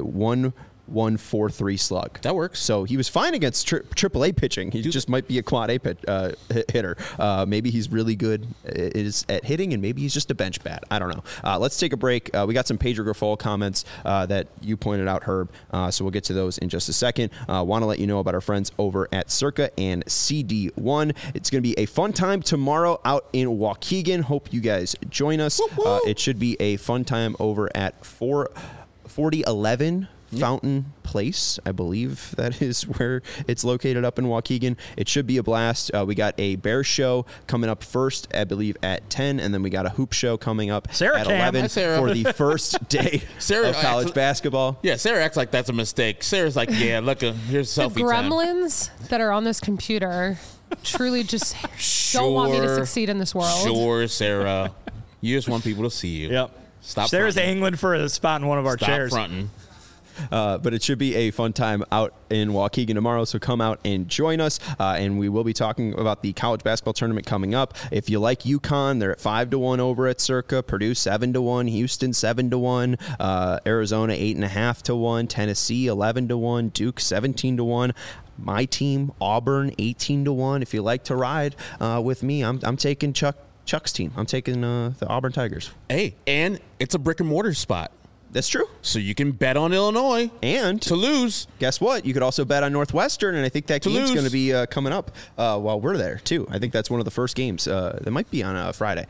1.143 slug. That works. So he was fine against AAA pitching. He just might be a quad A hitter. Maybe he's really good at hitting, and maybe he's just a bench bat. I don't know. Let's take a break. We got some Pedro Grifol comments that you pointed out, Herb. So we'll get to those in just a second. Want to let you know about our friends over at Circa and CD1. It's going to be a fun time tomorrow out in Waukegan. Hope you guys join us. It should be a fun time over at 4011 Fountain Place. I believe that is where it's located up in Waukegan. It should be a blast. We got a bear show coming up first, I believe, at 10, and then we got a hoop show coming up at 11 for the first day of college basketball. Yeah, Sarah acts like that's a mistake. Sarah's like, yeah, look, here's selfie the gremlins time. That are on this computer truly just don't want me to succeed in this world. Sure, Sarah. You just want people to see you. Yep. Stop Sarah's fronting. angling for a spot in one of our chairs. Stop fronting. But it should be a fun time out in Waukegan tomorrow, so come out and join us. And we will be talking about the college basketball tournament coming up. If you like UConn, they're at 5-1 over at Circa. Purdue 7-1, Houston 7-1, Arizona 8.5-1, Tennessee 11-1, Duke 17-1. My team, Auburn 18-1. If you like to ride with me, I'm taking Chuck's team. I'm taking the Auburn Tigers. Hey, and it's a brick and mortar spot. That's true. So you can bet on Illinois and to lose. Guess what? You could also bet on Northwestern, and I think that game's going to be coming up while we're there too. I think that's one of the first games. That might be on a Friday.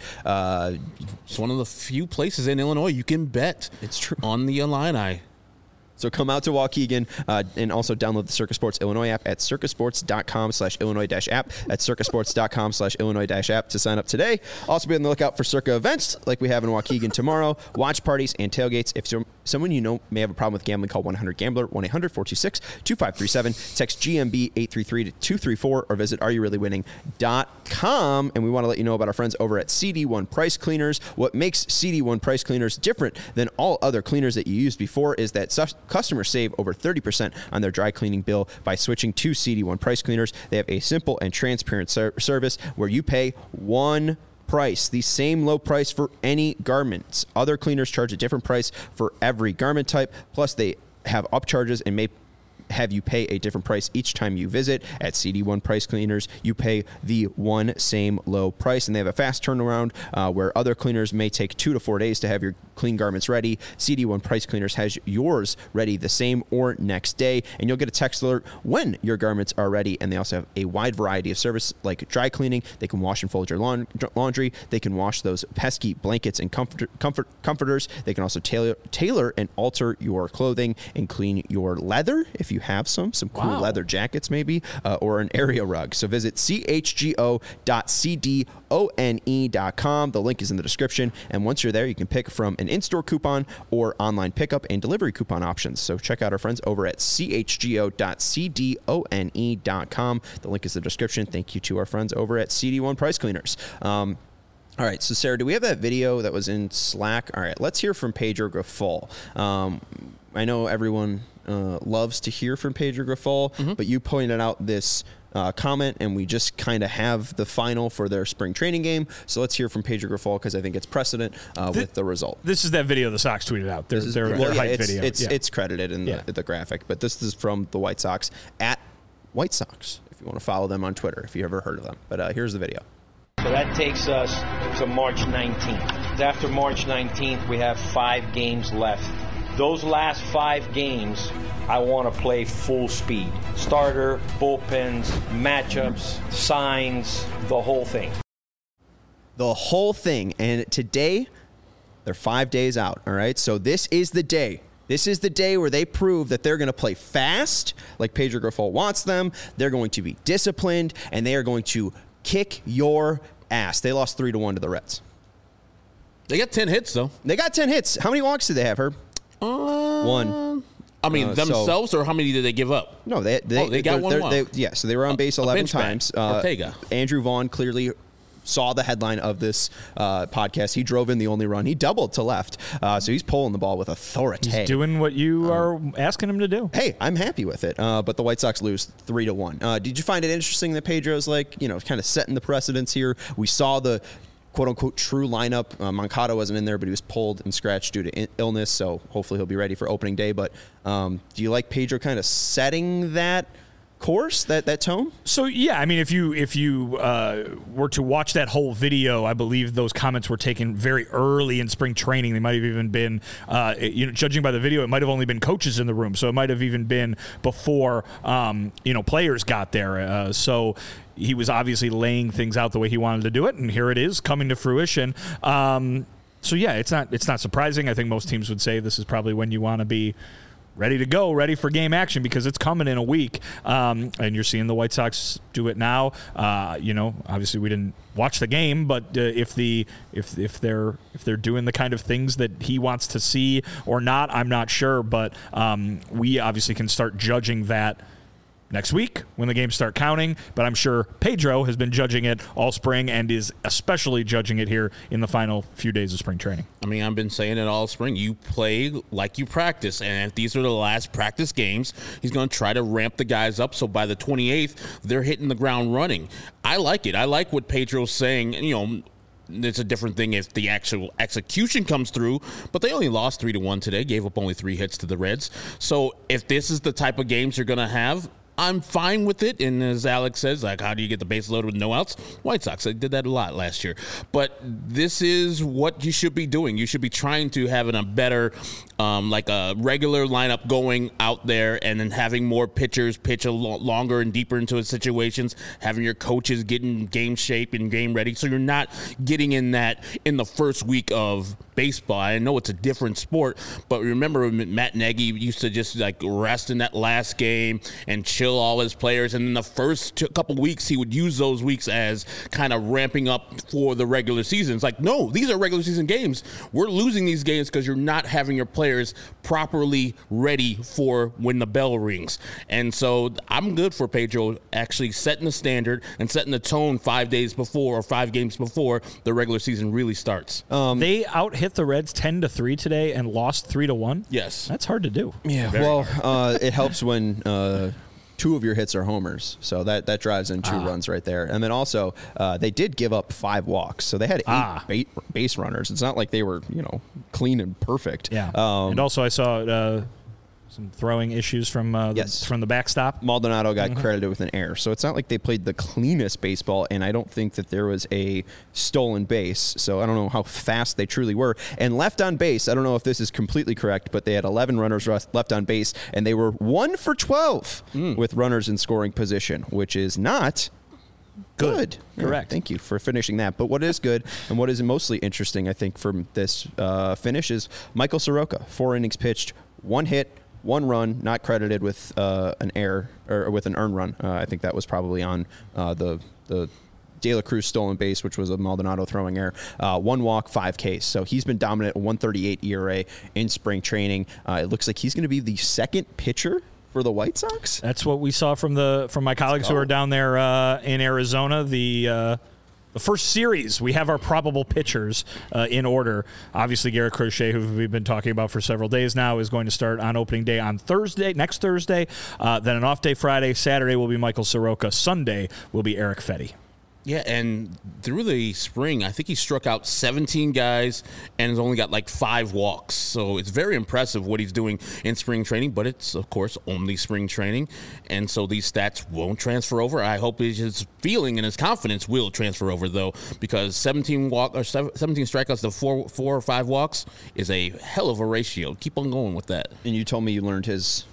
It's one of the few places in Illinois you can bet. It's true on the Illini. So come out to Waukegan and also download the Circa Sports Illinois app at circasports.com/Illinois-app. That's circasports.com/Illinois-app to sign up today. Also be on the lookout for Circa events like we have in Waukegan tomorrow, watch parties and tailgates. If someone you know may have a problem with gambling, call 1-800-GAMBLER, 1-800-426-2537. Text GMB 833-234 or visit areyoureallywinning.com. And we want to let you know about our friends over at CD1 Price Cleaners. What makes CD1 Price Cleaners different than all other cleaners that you used before is that customers save over 30% on their dry cleaning bill by switching to CD1 Price Cleaners. They have a simple and transparent service where you pay one price, the same low price for any garments. Other cleaners charge a different price for every garment type. Plus, they have upcharges and may have you pay a different price each time you visit. At CD1 Price Cleaners, you pay the one same low price, and they have a fast turnaround where other cleaners may take 2 to 4 days to have your clean garments ready. CD1 Price Cleaners has yours ready the same or next day, and you'll get a text alert when your garments are ready. And they also have a wide variety of service like dry cleaning. They can wash and fold your laundry. They can wash those pesky blankets and comforters. They can also tailor and alter your clothing and clean your leather if you have some cool Wow. leather jackets maybe, or an area rug. So visit chgo.cdone.com. The link is in the description. And once you're there, you can pick from an in-store coupon or online pickup and delivery coupon options. So check out our friends over at chgo.cdone.com. The link is in the description. Thank you to our friends over at CD1 Price Cleaners. All right, so Sarah, do we have that video that was in Slack? All right, let's hear from Pedro Grifol. I know everyone loves to hear from Pedro Grifol, but you pointed out this comment, and we just kind of have the final for their spring training game. So let's hear from Pedro Grifol because I think it's precedent with the result. This is that video the Sox tweeted out. Their hype video. It's credited in the graphic, but this is from the White Sox at White Sox, if you want to follow them on Twitter, if you ever heard of them. But here's the video. So that takes us to March 19th. After March 19th, we have 5 games left. Those last 5 games, I want to play full speed. Starter, bullpens, matchups, signs, the whole thing. The whole thing. And today, they're 5 days out, all right? So this is the day. This is the day where they prove that they're going to play fast, like Pedro Grifol wants them. They're going to be disciplined, and they are going to kick your ass. They lost 3-1 to the Reds. They got 10 hits, though. They got 10 hits. How many walks did they have, Herb? 1. I mean, themselves, or how many did they give up? No, they got one walk. So they were on base 11 times. Ortega. Andrew Vaughn clearly saw the headline of this podcast. He drove in the only run. He doubled to left. So he's pulling the ball with authority. He's doing what you are asking him to do. Hey, I'm happy with it. But the White Sox lose 3-1. Did you find it interesting that Pedro's kind of setting the precedence here? We saw the quote-unquote true lineup. Moncada wasn't in there, but he was pulled and scratched due to illness, so hopefully he'll be ready for opening day. But do you like Pedro kind of setting that course, that tone? So yeah, I mean, if you were to watch that whole video, I believe those comments were taken very early in spring training. They might have even been, judging by the video, it might have only been coaches in the room, so it might have even been before players got there. So he was obviously laying things out the way he wanted to do it, and here it is coming to fruition. So yeah, it's not surprising. I think most teams would say this is probably when you want to be ready to go, ready for game action, because it's coming in a week. And you're seeing the White Sox do it now. Obviously we didn't watch the game, but if they're doing the kind of things that he wants to see or not, I'm not sure. But we obviously can start judging that next week when the games start counting, but I'm sure Pedro has been judging it all spring and is especially judging it here in the final few days of spring training. I mean, I've been saying it all spring. You play like you practice, and if these are the last practice games, he's going to try to ramp the guys up so by the 28th, they're hitting the ground running. I like it. I like what Pedro's saying. It's a different thing if the actual execution comes through, but they only lost 3-1 today, gave up only 3 hits to the Reds. So if this is the type of games you're going to have, I'm fine with it. And as Alex says, how do you get the base loaded with no outs? White Sox, they did that a lot last year. But this is what you should be doing. You should be trying to have a better, a regular lineup going out there, and then having more pitchers pitch longer and deeper into the situations, having your coaches get in game shape and game ready. So you're not getting in that in the first week of baseball. I know it's a different sport, but remember Matt Nagy used to just rest in that last game and chill all his players, and in the first couple weeks he would use those weeks as kind of ramping up for the regular season. It's no, these are regular season games. We're losing these games because you're not having your players properly ready for when the bell rings. And so I'm good for Pedro actually setting the standard and setting the tone 5 days before or 5 games before the regular season really starts. They out-hit the Reds 10-3 today and lost 3-1. Yes. That's hard to do. Yeah, it helps when 2 of your hits are homers, so that drives in 2 runs right there. And then also, they did give up 5 walks, so they had 8 base runners. It's not like they were, clean and perfect. Yeah. And also, I saw some throwing issues from the backstop. Maldonado got credited with an error, so it's not like they played the cleanest baseball, and I don't think that there was a stolen base, so I don't know how fast they truly were. And left on base, I don't know if this is completely correct, but they had 11 runners left on base, and they were 1 for 12 with runners in scoring position, which is not good. Correct. Thank you for finishing that. But what is good and what is mostly interesting, I think, from this finish is Michael Soroka. 4 innings pitched, 1 hit, 1 run, not credited with an error or with an earned run. I think that was probably on the De La Cruz stolen base, which was a Maldonado throwing error. 1 walk, 5 Ks. So he's been dominant, 1.38 ERA in spring training. It looks like he's going to be the second pitcher for the White Sox. That's what we saw from my colleagues who are down there in Arizona. The first series, we have our probable pitchers in order. Obviously, Garrett Crochet, who we've been talking about for several days now, is going to start on opening day on next Thursday. Then an off day Friday. Saturday will be Michael Soroka. Sunday will be Erick Fedde. Yeah, and through the spring, I think he struck out 17 guys and has only got like 5 walks. So it's very impressive what he's doing in spring training, but it's, of course, only spring training. And so these stats won't transfer over. I hope his feeling and his confidence will transfer over, though, because 17 strikeouts to 4 or 5 walks is a hell of a ratio. Keep on going with that. And you told me you learned his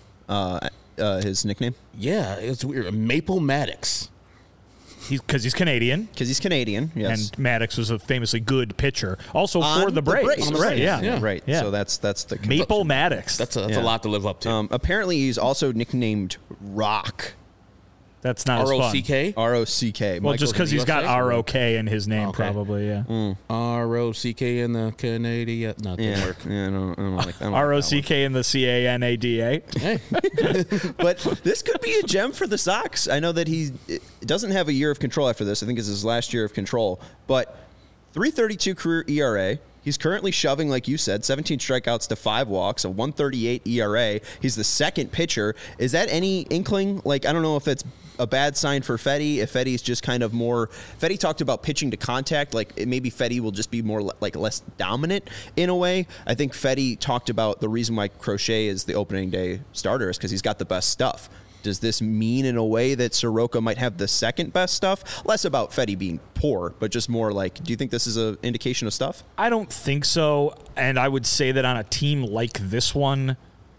nickname? Yeah, it's weird. Maple Maddox. Because he's Canadian. Because he's Canadian, yes. And Maddox was a famously good pitcher. Also for the Braves. Right, yeah. Right. Yeah. So that's the Maple Maddox. That's a lot to live up to. Apparently, he's also nicknamed Rock. That's not R-O-C-K? R-O-C-K. Well, just because he's got R-O-K in his name, probably, yeah. R-O-C-K in the Canadian. No, it didn't work. Yeah, I don't like that. R-O-C-K in the C-A-N-A-D-A. Hey. But this could be a gem for the Sox. I know that he doesn't have a year of control after this. I think it's his last year of control. But 3.32 career ERA. He's currently shoving, like you said, 17 strikeouts to 5 walks, a 1.38 ERA. He's the second pitcher. Is that any inkling? Like, I don't know if that's a bad sign for Fedde, if Fedde's just kind of more... Fedde talked about pitching to contact. Like, maybe Fedde will just be more, like, less dominant in a way. I think Fedde talked about the reason why Crochet is the opening day starter is because he's got the best stuff. Does this mean in a way that Soroka might have the second best stuff? Less about Fedde being poor, but just more like, do you think this is an indication of stuff? I don't think so. And I would say that on a team like this one,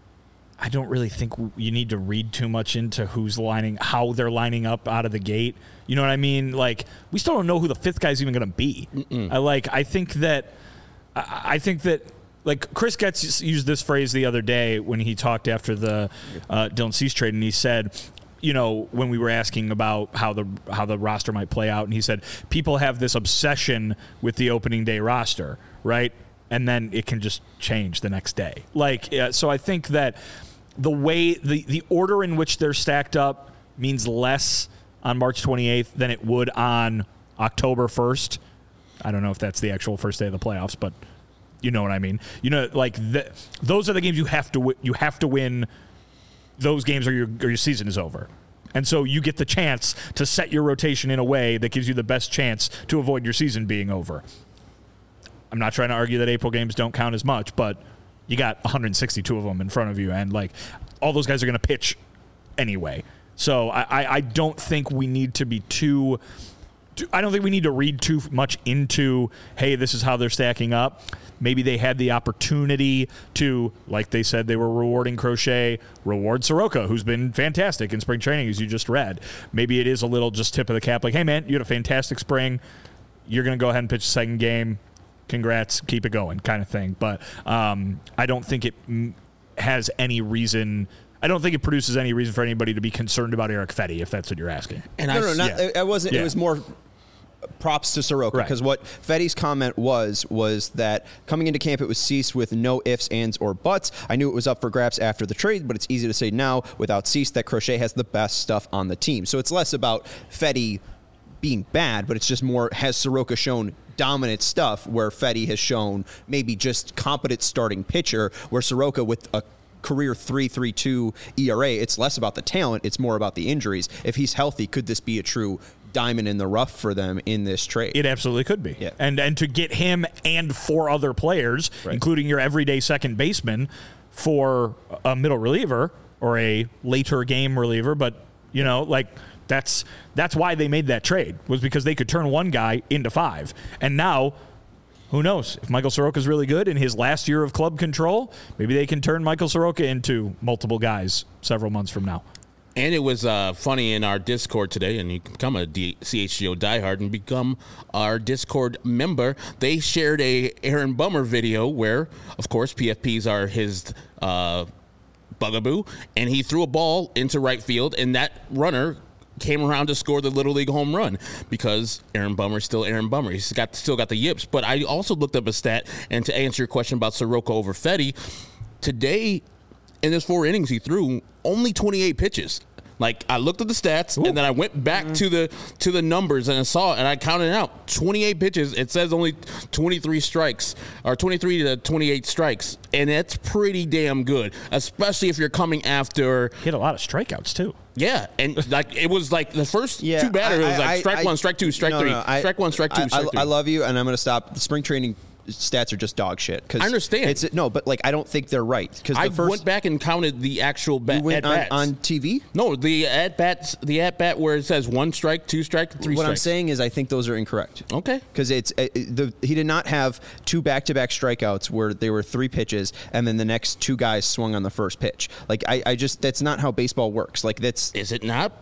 I don't really think you need to read too much into how they're lining up out of the gate. You know what I mean? Like, we still don't know who the fifth guy's even going to be. I think that like Chris Getz used this phrase the other day when he talked after the Dylan Cease trade, and he said, you know, when we were asking about how the roster might play out, and he said people have this obsession with the opening day roster, right? And then it can just change the next day. So I think that the way the order in which they're stacked up means less on March 28th than it would on October 1st. I don't know if that's the actual first day of the playoffs, but you know what I mean. You know, like those are the games you have to win. Those games or your season is over. And so you get the chance to set your rotation in a way that gives you the best chance to avoid your season being over. I'm not trying to argue that April games don't count as much, but you got 162 of them in front of you, and like all those guys are going to pitch anyway. So I don't think we need to be I don't think we need to read too much into, hey, this is how they're stacking up. Maybe they had the opportunity to, like they said, they were rewarding Crochet, reward Soroka, who's been fantastic in spring training, as you just read. Maybe it is a little just tip of the cap, like, hey, man, you had a fantastic spring. You're going to go ahead and pitch the second game. Congrats, keep it going, kind of thing. But I don't think it has any reason. I don't think it produces any reason for anybody to be concerned about Erick Fedde, if that's what you're asking. And I wasn't. Yeah. It was more props to Soroka, because what Fedde's comment was that coming into camp, it was Cease with no ifs, ands, or buts. I knew it was up for grabs after the trade, but it's easy to say now without Cease that Crochet has the best stuff on the team. So it's less about Fedde being bad, but it's just more, has Soroka shown dominant stuff where Fedde has shown maybe just competent starting pitcher, where Soroka with a career 3.32 ERA, it's less about the talent, it's more about the injuries. If he's healthy, could this be a true diamond in the rough for them in this trade? It absolutely could be. Yeah. And to get him and 4 other players, including your everyday second baseman, for a middle reliever or a later game reliever, but you know, like that's why they made that trade, was because they could turn one guy into 5. And now, who knows? If Michael Soroka's really good in his last year of club control, maybe they can turn Michael Soroka into multiple guys several months from now. And it was funny in our Discord today, and you can become a CHGO diehard and become our Discord member. They shared a Aaron Bummer video where, of course, PFPs are his bugaboo, and he threw a ball into right field, and that runner came around to score the Little League home run because Aaron Bummer's still Aaron Bummer. He's still got the yips. But I also looked up a stat, and to answer your question about Soroka over Fetty, today in his 4 innings he threw only 28 pitches. Like, I looked at the stats, and then I went back to the numbers, and I saw it, and I counted it out. 28 pitches. It says only 23 strikes, or 23 to 28 strikes, and that's pretty damn good, especially if you're coming after. He had a lot of strikeouts, too. Yeah, and like it was like the first 2 batters, it was like strike 1, strike 2, strike 3, strike 1, strike 2, strike 3. I love you, and I'm going to stop. The spring training stats are just dog shit. I understand. But like I don't think they're right because I went back and counted the actual at bats on TV. No, the at bats, where it says 1 strike, 2 strike, 3 strikes. What I'm saying is I think those are incorrect. Okay, because he did not have 2 back-to-back strikeouts where they were 3 pitches and then the next 2 guys swung on the first pitch. Like I just that's not how baseball works. Like is it not?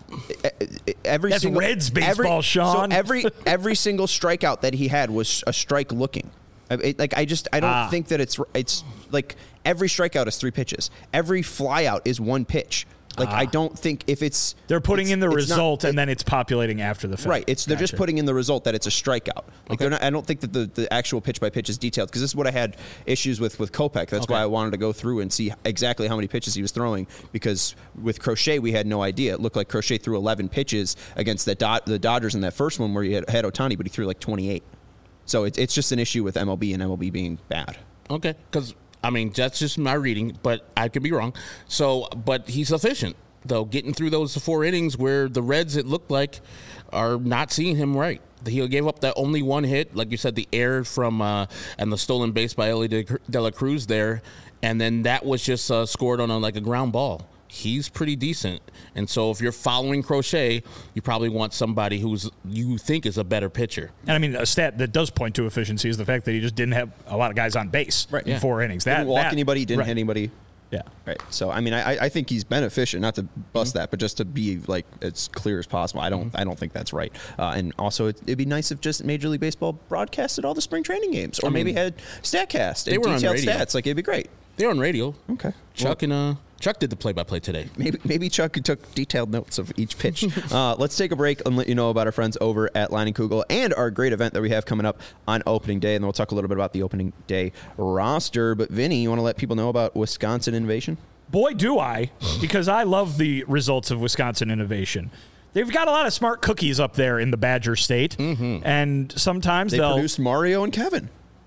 That's Reds baseball, Sean. So every single strikeout that he had was a strike looking. I don't think that it's like every strikeout is 3 pitches. Every flyout is 1 pitch. Like I don't think if it's they're putting in the result and then it's populating after the fact. Right. They're just putting in the result that it's a strikeout. Like they're not. I don't think that the actual pitch by pitch is detailed because this is what I had issues with Kopech. That's why I wanted to go through and see exactly how many pitches he was throwing because with Crochet we had no idea. It looked like Crochet threw 11 pitches against the Dodgers in that first one where he had Ohtani, but he threw like 28. So it's just an issue with MLB and MLB being bad. Okay, because, I mean, that's just my reading, but I could be wrong. But he's efficient, though, getting through those 4 innings where the Reds, it looked like, are not seeing him right. He gave up that only 1 hit, like you said, the error from and the stolen base by Ellie De La Cruz there, and then that was just scored on a ground ball. He's pretty decent. And so if you're following Crochet, you probably want somebody you think is a better pitcher. And I mean, a stat that does point to efficiency is the fact that he just didn't have a lot of guys on base in 4 innings. Didn't walk anybody, didn't hit anybody. Yeah. Right. So, I mean, I think he's been efficient, not to bust that, but just to be like as clear as possible. I don't think that's right. And also, it'd be nice if just Major League Baseball broadcasted all the spring training games or maybe had StatCast and detailed stats. Like, it'd be great. They're on radio. Okay. Chuck did the play-by-play today. Maybe Chuck took detailed notes of each pitch. Let's take a break and let you know about our friends over at Leinenkugel and our great event that we have coming up on opening day. And then we'll talk a little bit about the opening day roster. But Vinny, you want to let people know about Wisconsin Innovation? Boy, do I, because I love the results of Wisconsin Innovation. They've got a lot of smart cookies up there in the Badger State. And sometimes they produced Mario and Kevin.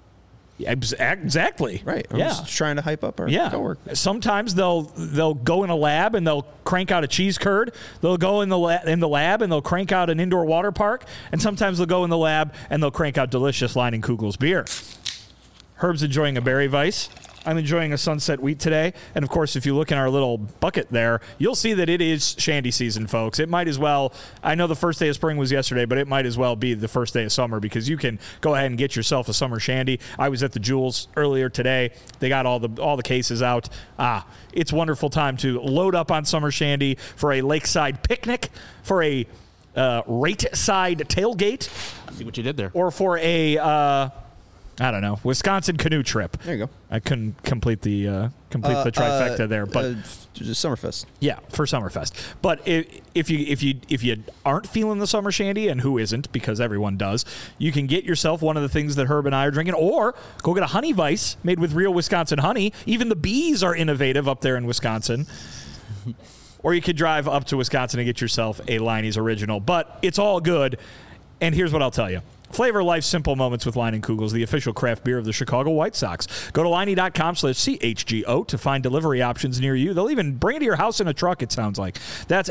Exactly. Right. I'm just trying to hype up our coworkers. Sometimes they'll go in a lab and they'll crank out a cheese curd. They'll go in the lab and they'll crank out an indoor water park. And sometimes they'll go in the lab and they'll crank out delicious Leinenkugel's beer. Herb's enjoying a Berry Weiss. I'm enjoying a Sunset Wheat today. And, of course, if you look in our little bucket there, you'll see that it is shandy season, folks. It might as well – I know the first day of spring was yesterday, but it might as well be the first day of summer because you can go ahead and get yourself a summer shandy. I was at the Jewels earlier today. They got all the cases out. It's a wonderful time to load up on summer shandy for a lakeside picnic, for a rate-side tailgate. I see what you did there. Or for a I don't know, Wisconsin canoe trip. There you go. I couldn't complete the trifecta there, but Summerfest. Yeah, for Summerfest. But if you aren't feeling the summer shandy, and who isn't, because everyone does, you can get yourself one of the things that Herb and I are drinking, or go get a honey Weiss made with real Wisconsin honey. Even the bees are innovative up there in Wisconsin. Or you could drive up to Wisconsin and get yourself a Leinie's Original. But it's all good. And here's what I'll tell you. Flavor life's simple moments with Leinenkugels, the official craft beer of the Chicago White Sox. Go to Leinie.com/CHGO to find delivery options near you. They'll even bring it to your house in a truck, it sounds like. That's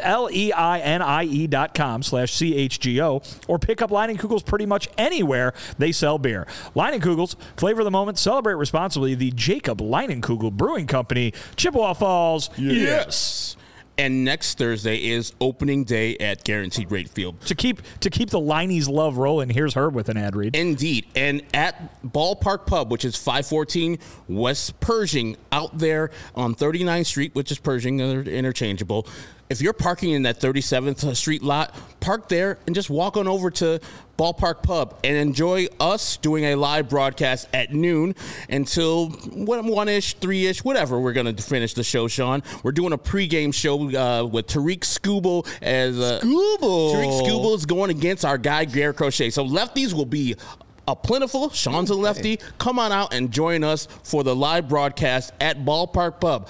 LEINIE.com/CHGO, or pick up Leinenkugels pretty much anywhere they sell beer. Leinenkugels, flavor the moment, celebrate responsibly. The Jacob Leinenkugel Brewing Company, Chippewa Falls. Yes. And next Thursday is opening day at Guaranteed Rate Field. To keep the Leinie's love rolling, here's Herb with an ad read. Indeed. And at Ballpark Pub, which is 514 West Pershing, out there on 39th Street, which is Pershing, they're interchangeable. if you're parking in that 37th Street lot, park there and just walk on over to Ballpark Pub and enjoy us doing a live broadcast at noon until 1-ish, 3-ish, whatever we're going to finish the show, Sean. We're doing a pregame show with Tariq Skubal as Tariq Skubal is going against our guy, Garrett Crochet. So lefties will be plentiful. Sean's a lefty. Come on out and join us for the live broadcast at Ballpark Pub.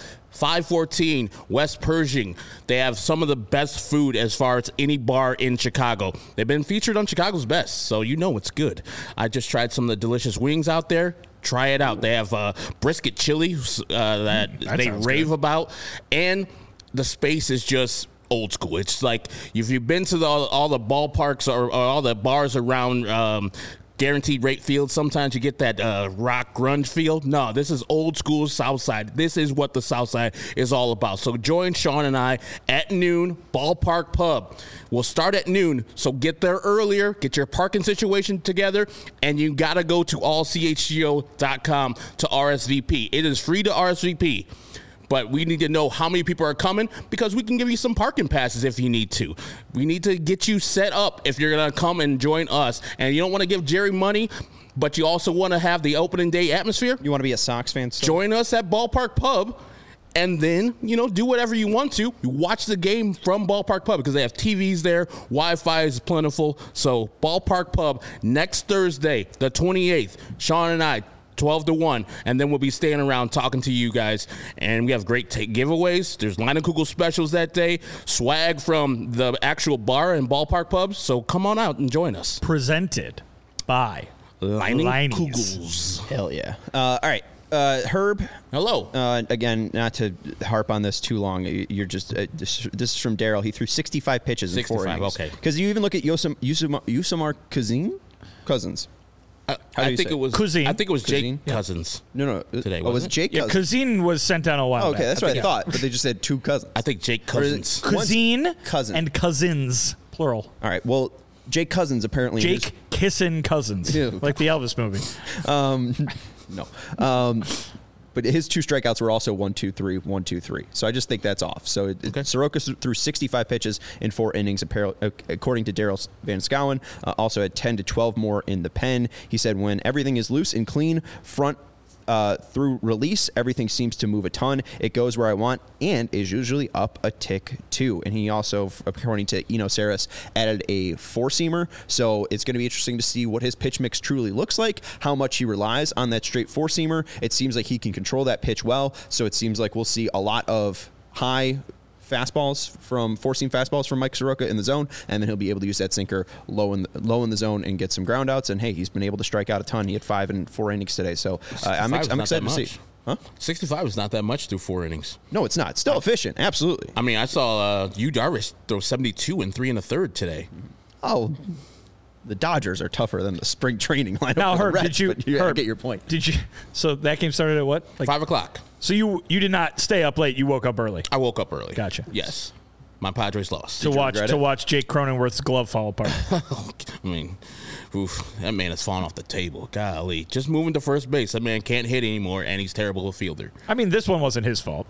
514 West Pershing. They have some of the best food as far as any bar in Chicago. They've been featured on Chicago's Best, so you know it's good. I just tried some of the delicious wings out there. Try it out. They have brisket chili that they rave about, and the space is just old school. It's like if you've been to all the ballparks or all the bars around Guaranteed Rate Field, sometimes you get that rock grunge feel. No, this is old school South Side. This is what the South Side is all about. So join Sean and I at noon, Ballpark Pub. We'll start at noon, so get there earlier, get your parking situation together, and you got to go to allchgo.com to RSVP. It is free to RSVP. But we need to know how many people are coming because we can give you some parking passes if you need to. We need to get you set up if you're going to come and join us. And you don't want to give Jerry money, but you also want to have the opening day atmosphere. You want to be a Sox fan still? Join us at Ballpark Pub. And then, do whatever you want to. You watch the game from Ballpark Pub because they have TVs there. Wi-Fi is plentiful. So Ballpark Pub next Thursday, the 28th. Sean and I, 12 to 1, and then we'll be staying around talking to you guys. And we have great giveaways. There's Leinenkugel specials that day, swag from the actual bar and Ballpark Pubs. So come on out and join us. Presented by Leinenkugels. Hell yeah. All right. Herb. Hello. Again, not to harp on this too long. You're just this is from Daryl. He threw 65 pitches in 4 innings. Okay. Because you even look at Yosemar Cousins. I think it was Cousin. I think it was Cousin? Jake Cousins. No. Today, was wasn't it Jake? Yeah, Cousin was sent down a while Okay, back. that's what I thought. But they just said two cousins. I think Jake Cousins. Cousin Cousin. and cousins, plural. All right. Well, Jake Cousins apparently. Jake Kissin Cousins, Ew. like the Elvis movie. No. But his 2 strikeouts were also 1-2-3, 1-2-3. So I just think that's off. So Soroka threw 65 pitches in 4 innings, according to Daryl Van Schouwen. Also had 10 to 12 more in the pen. He said, when everything is loose and clean, front through release, everything seems to move a ton. It goes where I want and is usually up a tick too. And he also, according to Eno Saris, added a 4-seamer. So it's going to be interesting to see what his pitch mix truly looks like, how much he relies on that straight 4-seamer. It seems like he can control that pitch well. So it seems like we'll see a lot of high fastballs from 4-seam fastballs from Mike Soroka in the zone, and then he'll be able to use that sinker low in the zone and get some ground outs. And hey, he's been able to strike out a ton. He had 5 in 4 innings today, so I'm excited to see. Huh? 65 is not that much through 4 innings. No, it's not. It's still efficient, absolutely. I mean, I saw Yu Darvish throw 72 in 3 1/3 today. Oh, the Dodgers are tougher than the spring training lineup. Now, Herb, Reds, I get your point. Did you? So that game started at what? 5 o'clock. So you did not stay up late. You woke up early I woke up early. Gotcha. Yes. My Padres lost. to watch Jake Cronenworth's glove fall apart. I mean, that man has fallen off the table. Golly. Just moving to first base. That man can't hit anymore, and he's terrible a fielder. I mean, this one wasn't his fault.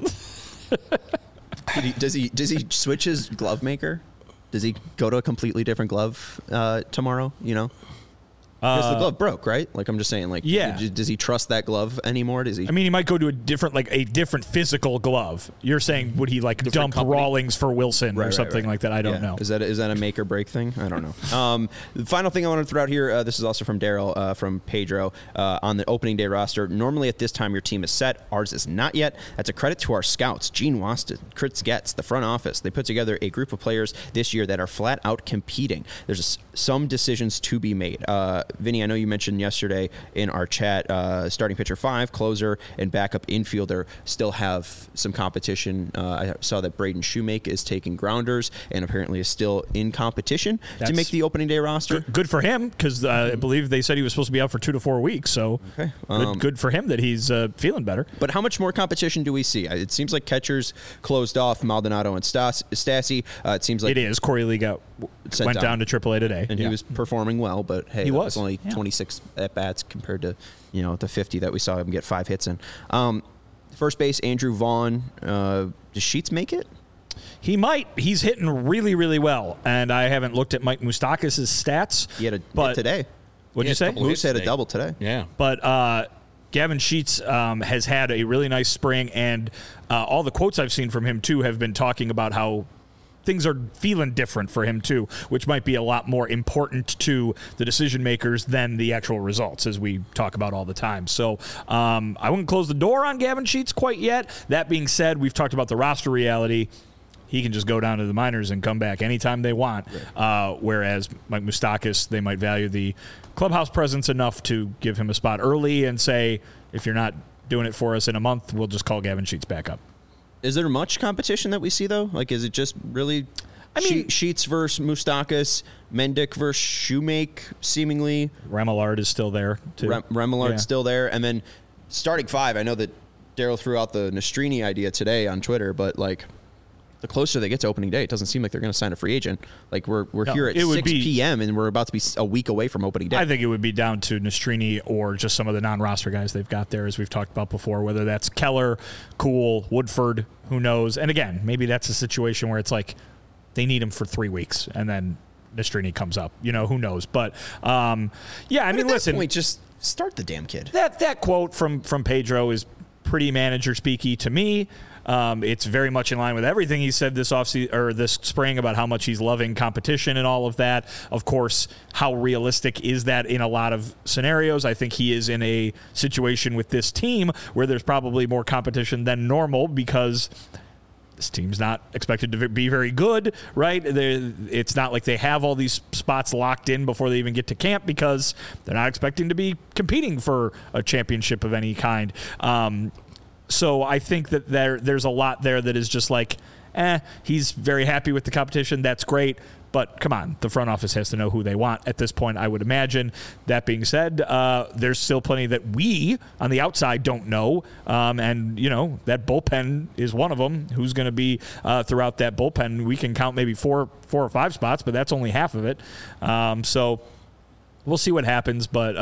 Does he switch his glove maker? Does he go to a completely different glove tomorrow? Because the glove broke, right? Like, I'm just saying, like, yeah. Does he trust that glove anymore? Does he? I mean, he might go to a different physical glove. You're saying, would he dump company? Rawlings for Wilson or something like that? I don't know. Is that a make or break thing? I don't know. The final thing I want to throw out here, this is also from Daryl, from Pedro, on the opening day roster. Normally at this time your team is set. Ours is not yet. That's a credit to our scouts, Gene Waston, Chris Getz, the front office. They put together a group of players this year that are flat out competing. There's some decisions to be made. Vinny, I know you mentioned yesterday in our chat, starting pitcher 5, closer, and backup infielder still have some competition. I saw that Braden Shoemake is taking grounders and apparently is still in competition to make the opening day roster. Good for him, because I believe they said he was supposed to be out for 2 to 4 weeks. So okay. Good for him that he's feeling better. But how much more competition do we see? It seems like catchers closed off Maldonado and Stassi. It seems like it is. Corey Lee went down to AAA today, and he was performing well. But hey, he was only 26 at bats compared to the 50 that we saw him get 5 hits in. First base, Andrew Vaughn. Does Sheets make it? He might. He's hitting really, really well. And I haven't looked at Mike Moustakas' stats. He had a hit today. What'd you say? Moose had a double today. Yeah. But Gavin Sheets has had a really nice spring, and all the quotes I've seen from him, too, have been talking about how things are feeling different for him, too, which might be a lot more important to the decision makers than the actual results, as we talk about all the time. So I wouldn't close the door on Gavin Sheets quite yet. That being said, we've talked about the roster reality. He can just go down to the minors and come back anytime they want. Right. Whereas Mike Moustakas, they might value the clubhouse presence enough to give him a spot early and say, if you're not doing it for us in a month, we'll just call Gavin Sheets back up. Is there much competition that we see, though? Like, is it just really Sheets versus Moustakas, Mendick versus Shoemake, seemingly? Remillard is still there, too. Remillard's still there. And then starting five, I know that Daryl threw out the Nastrini idea today on Twitter, but, like, the closer they get to opening day, it doesn't seem like they're going to sign a free agent. Like, we're here at 6 p.m., and we're about to be a week away from opening day. I think it would be down to Nastrini or just some of the non-roster guys they've got there, as we've talked about before, whether that's Keller, Kuhl, Woodford, who knows. And, again, maybe that's a situation where it's like they need him for 3 weeks, and then Nastrini comes up. You know, who knows. But, listen. Point, just start the damn kid. That quote from Pedro is pretty manager speaky to me. It's very much in line with everything he said this offseason or this spring about how much he's loving competition and all of that. Of course, how realistic is that in a lot of scenarios? I think he is in a situation with this team where there's probably more competition than normal because this team's not expected to be very good, right? It's not like they have all these spots locked in before they even get to camp because they're not expecting to be competing for a championship of any kind. So I think that there's a lot there that is just like, he's very happy with the competition. That's great. But come on, the front office has to know who they want at this point, I would imagine. That being said, there's still plenty that we on the outside don't know. And, that bullpen is one of them. Who's going to be throughout that bullpen? We can count maybe four or five spots, but that's only half of it. So we'll see what happens, but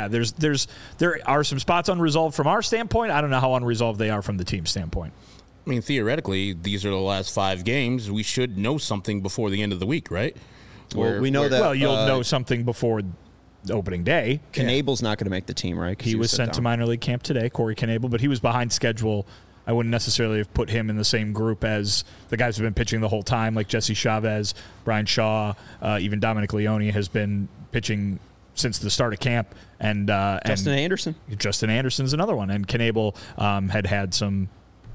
there are some spots unresolved from our standpoint. I don't know how unresolved they are from the team's standpoint. I mean, theoretically, these are the last 5 games. We should know something before the end of the week, right? We know that. Well, you'll know something before opening day. Knable's not going to make the team, right? He was sent to minor league camp today, Corey Knable, but he was behind schedule. I wouldn't necessarily have put him in the same group as the guys who've been pitching the whole time, like Jesse Chavez, Brian Shaw, even Dominic Leone has been pitching since the start of camp, and Justin Anderson. Justin Anderson's another one, and Knable had some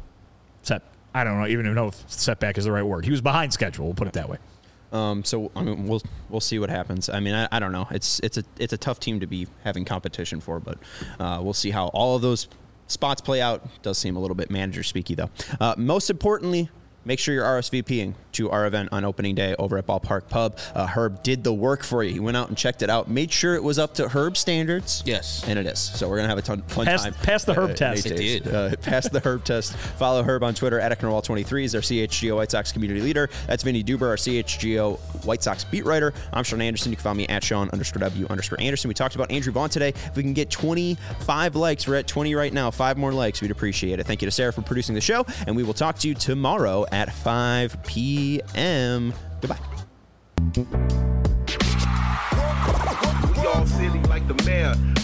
I don't even know if setback is the right word. He was behind schedule. We'll put it that way. So I mean, we'll see what happens. I mean, I don't know. It's a tough team to be having competition for, but we'll see how all of those spots play out. Does seem a little bit manager speaky though. Most importantly, make sure you're RSVPing to our event on opening day over at Ballpark Pub. Herb did the work for you. He went out and checked it out, made sure it was up to Herb standards. Yes. And it is. So we're going to have a fun time. Pass the Herb test. It did. Pass the Herb test. Follow Herb on Twitter at Ecknerwall23. He's our CHGO White Sox community leader. That's Vinny Duber, our CHGO White Sox beat writer. I'm Sean Anderson. You can follow me at Sean_W_Anderson. We talked about Andrew Vaughn today. If we can get 25 likes, we're at 20 right now. 5 more likes, we'd appreciate it. Thank you to Sarah for producing the show, and we will talk to you tomorrow at 5 p.m. Goodbye. We all silly like the mayor.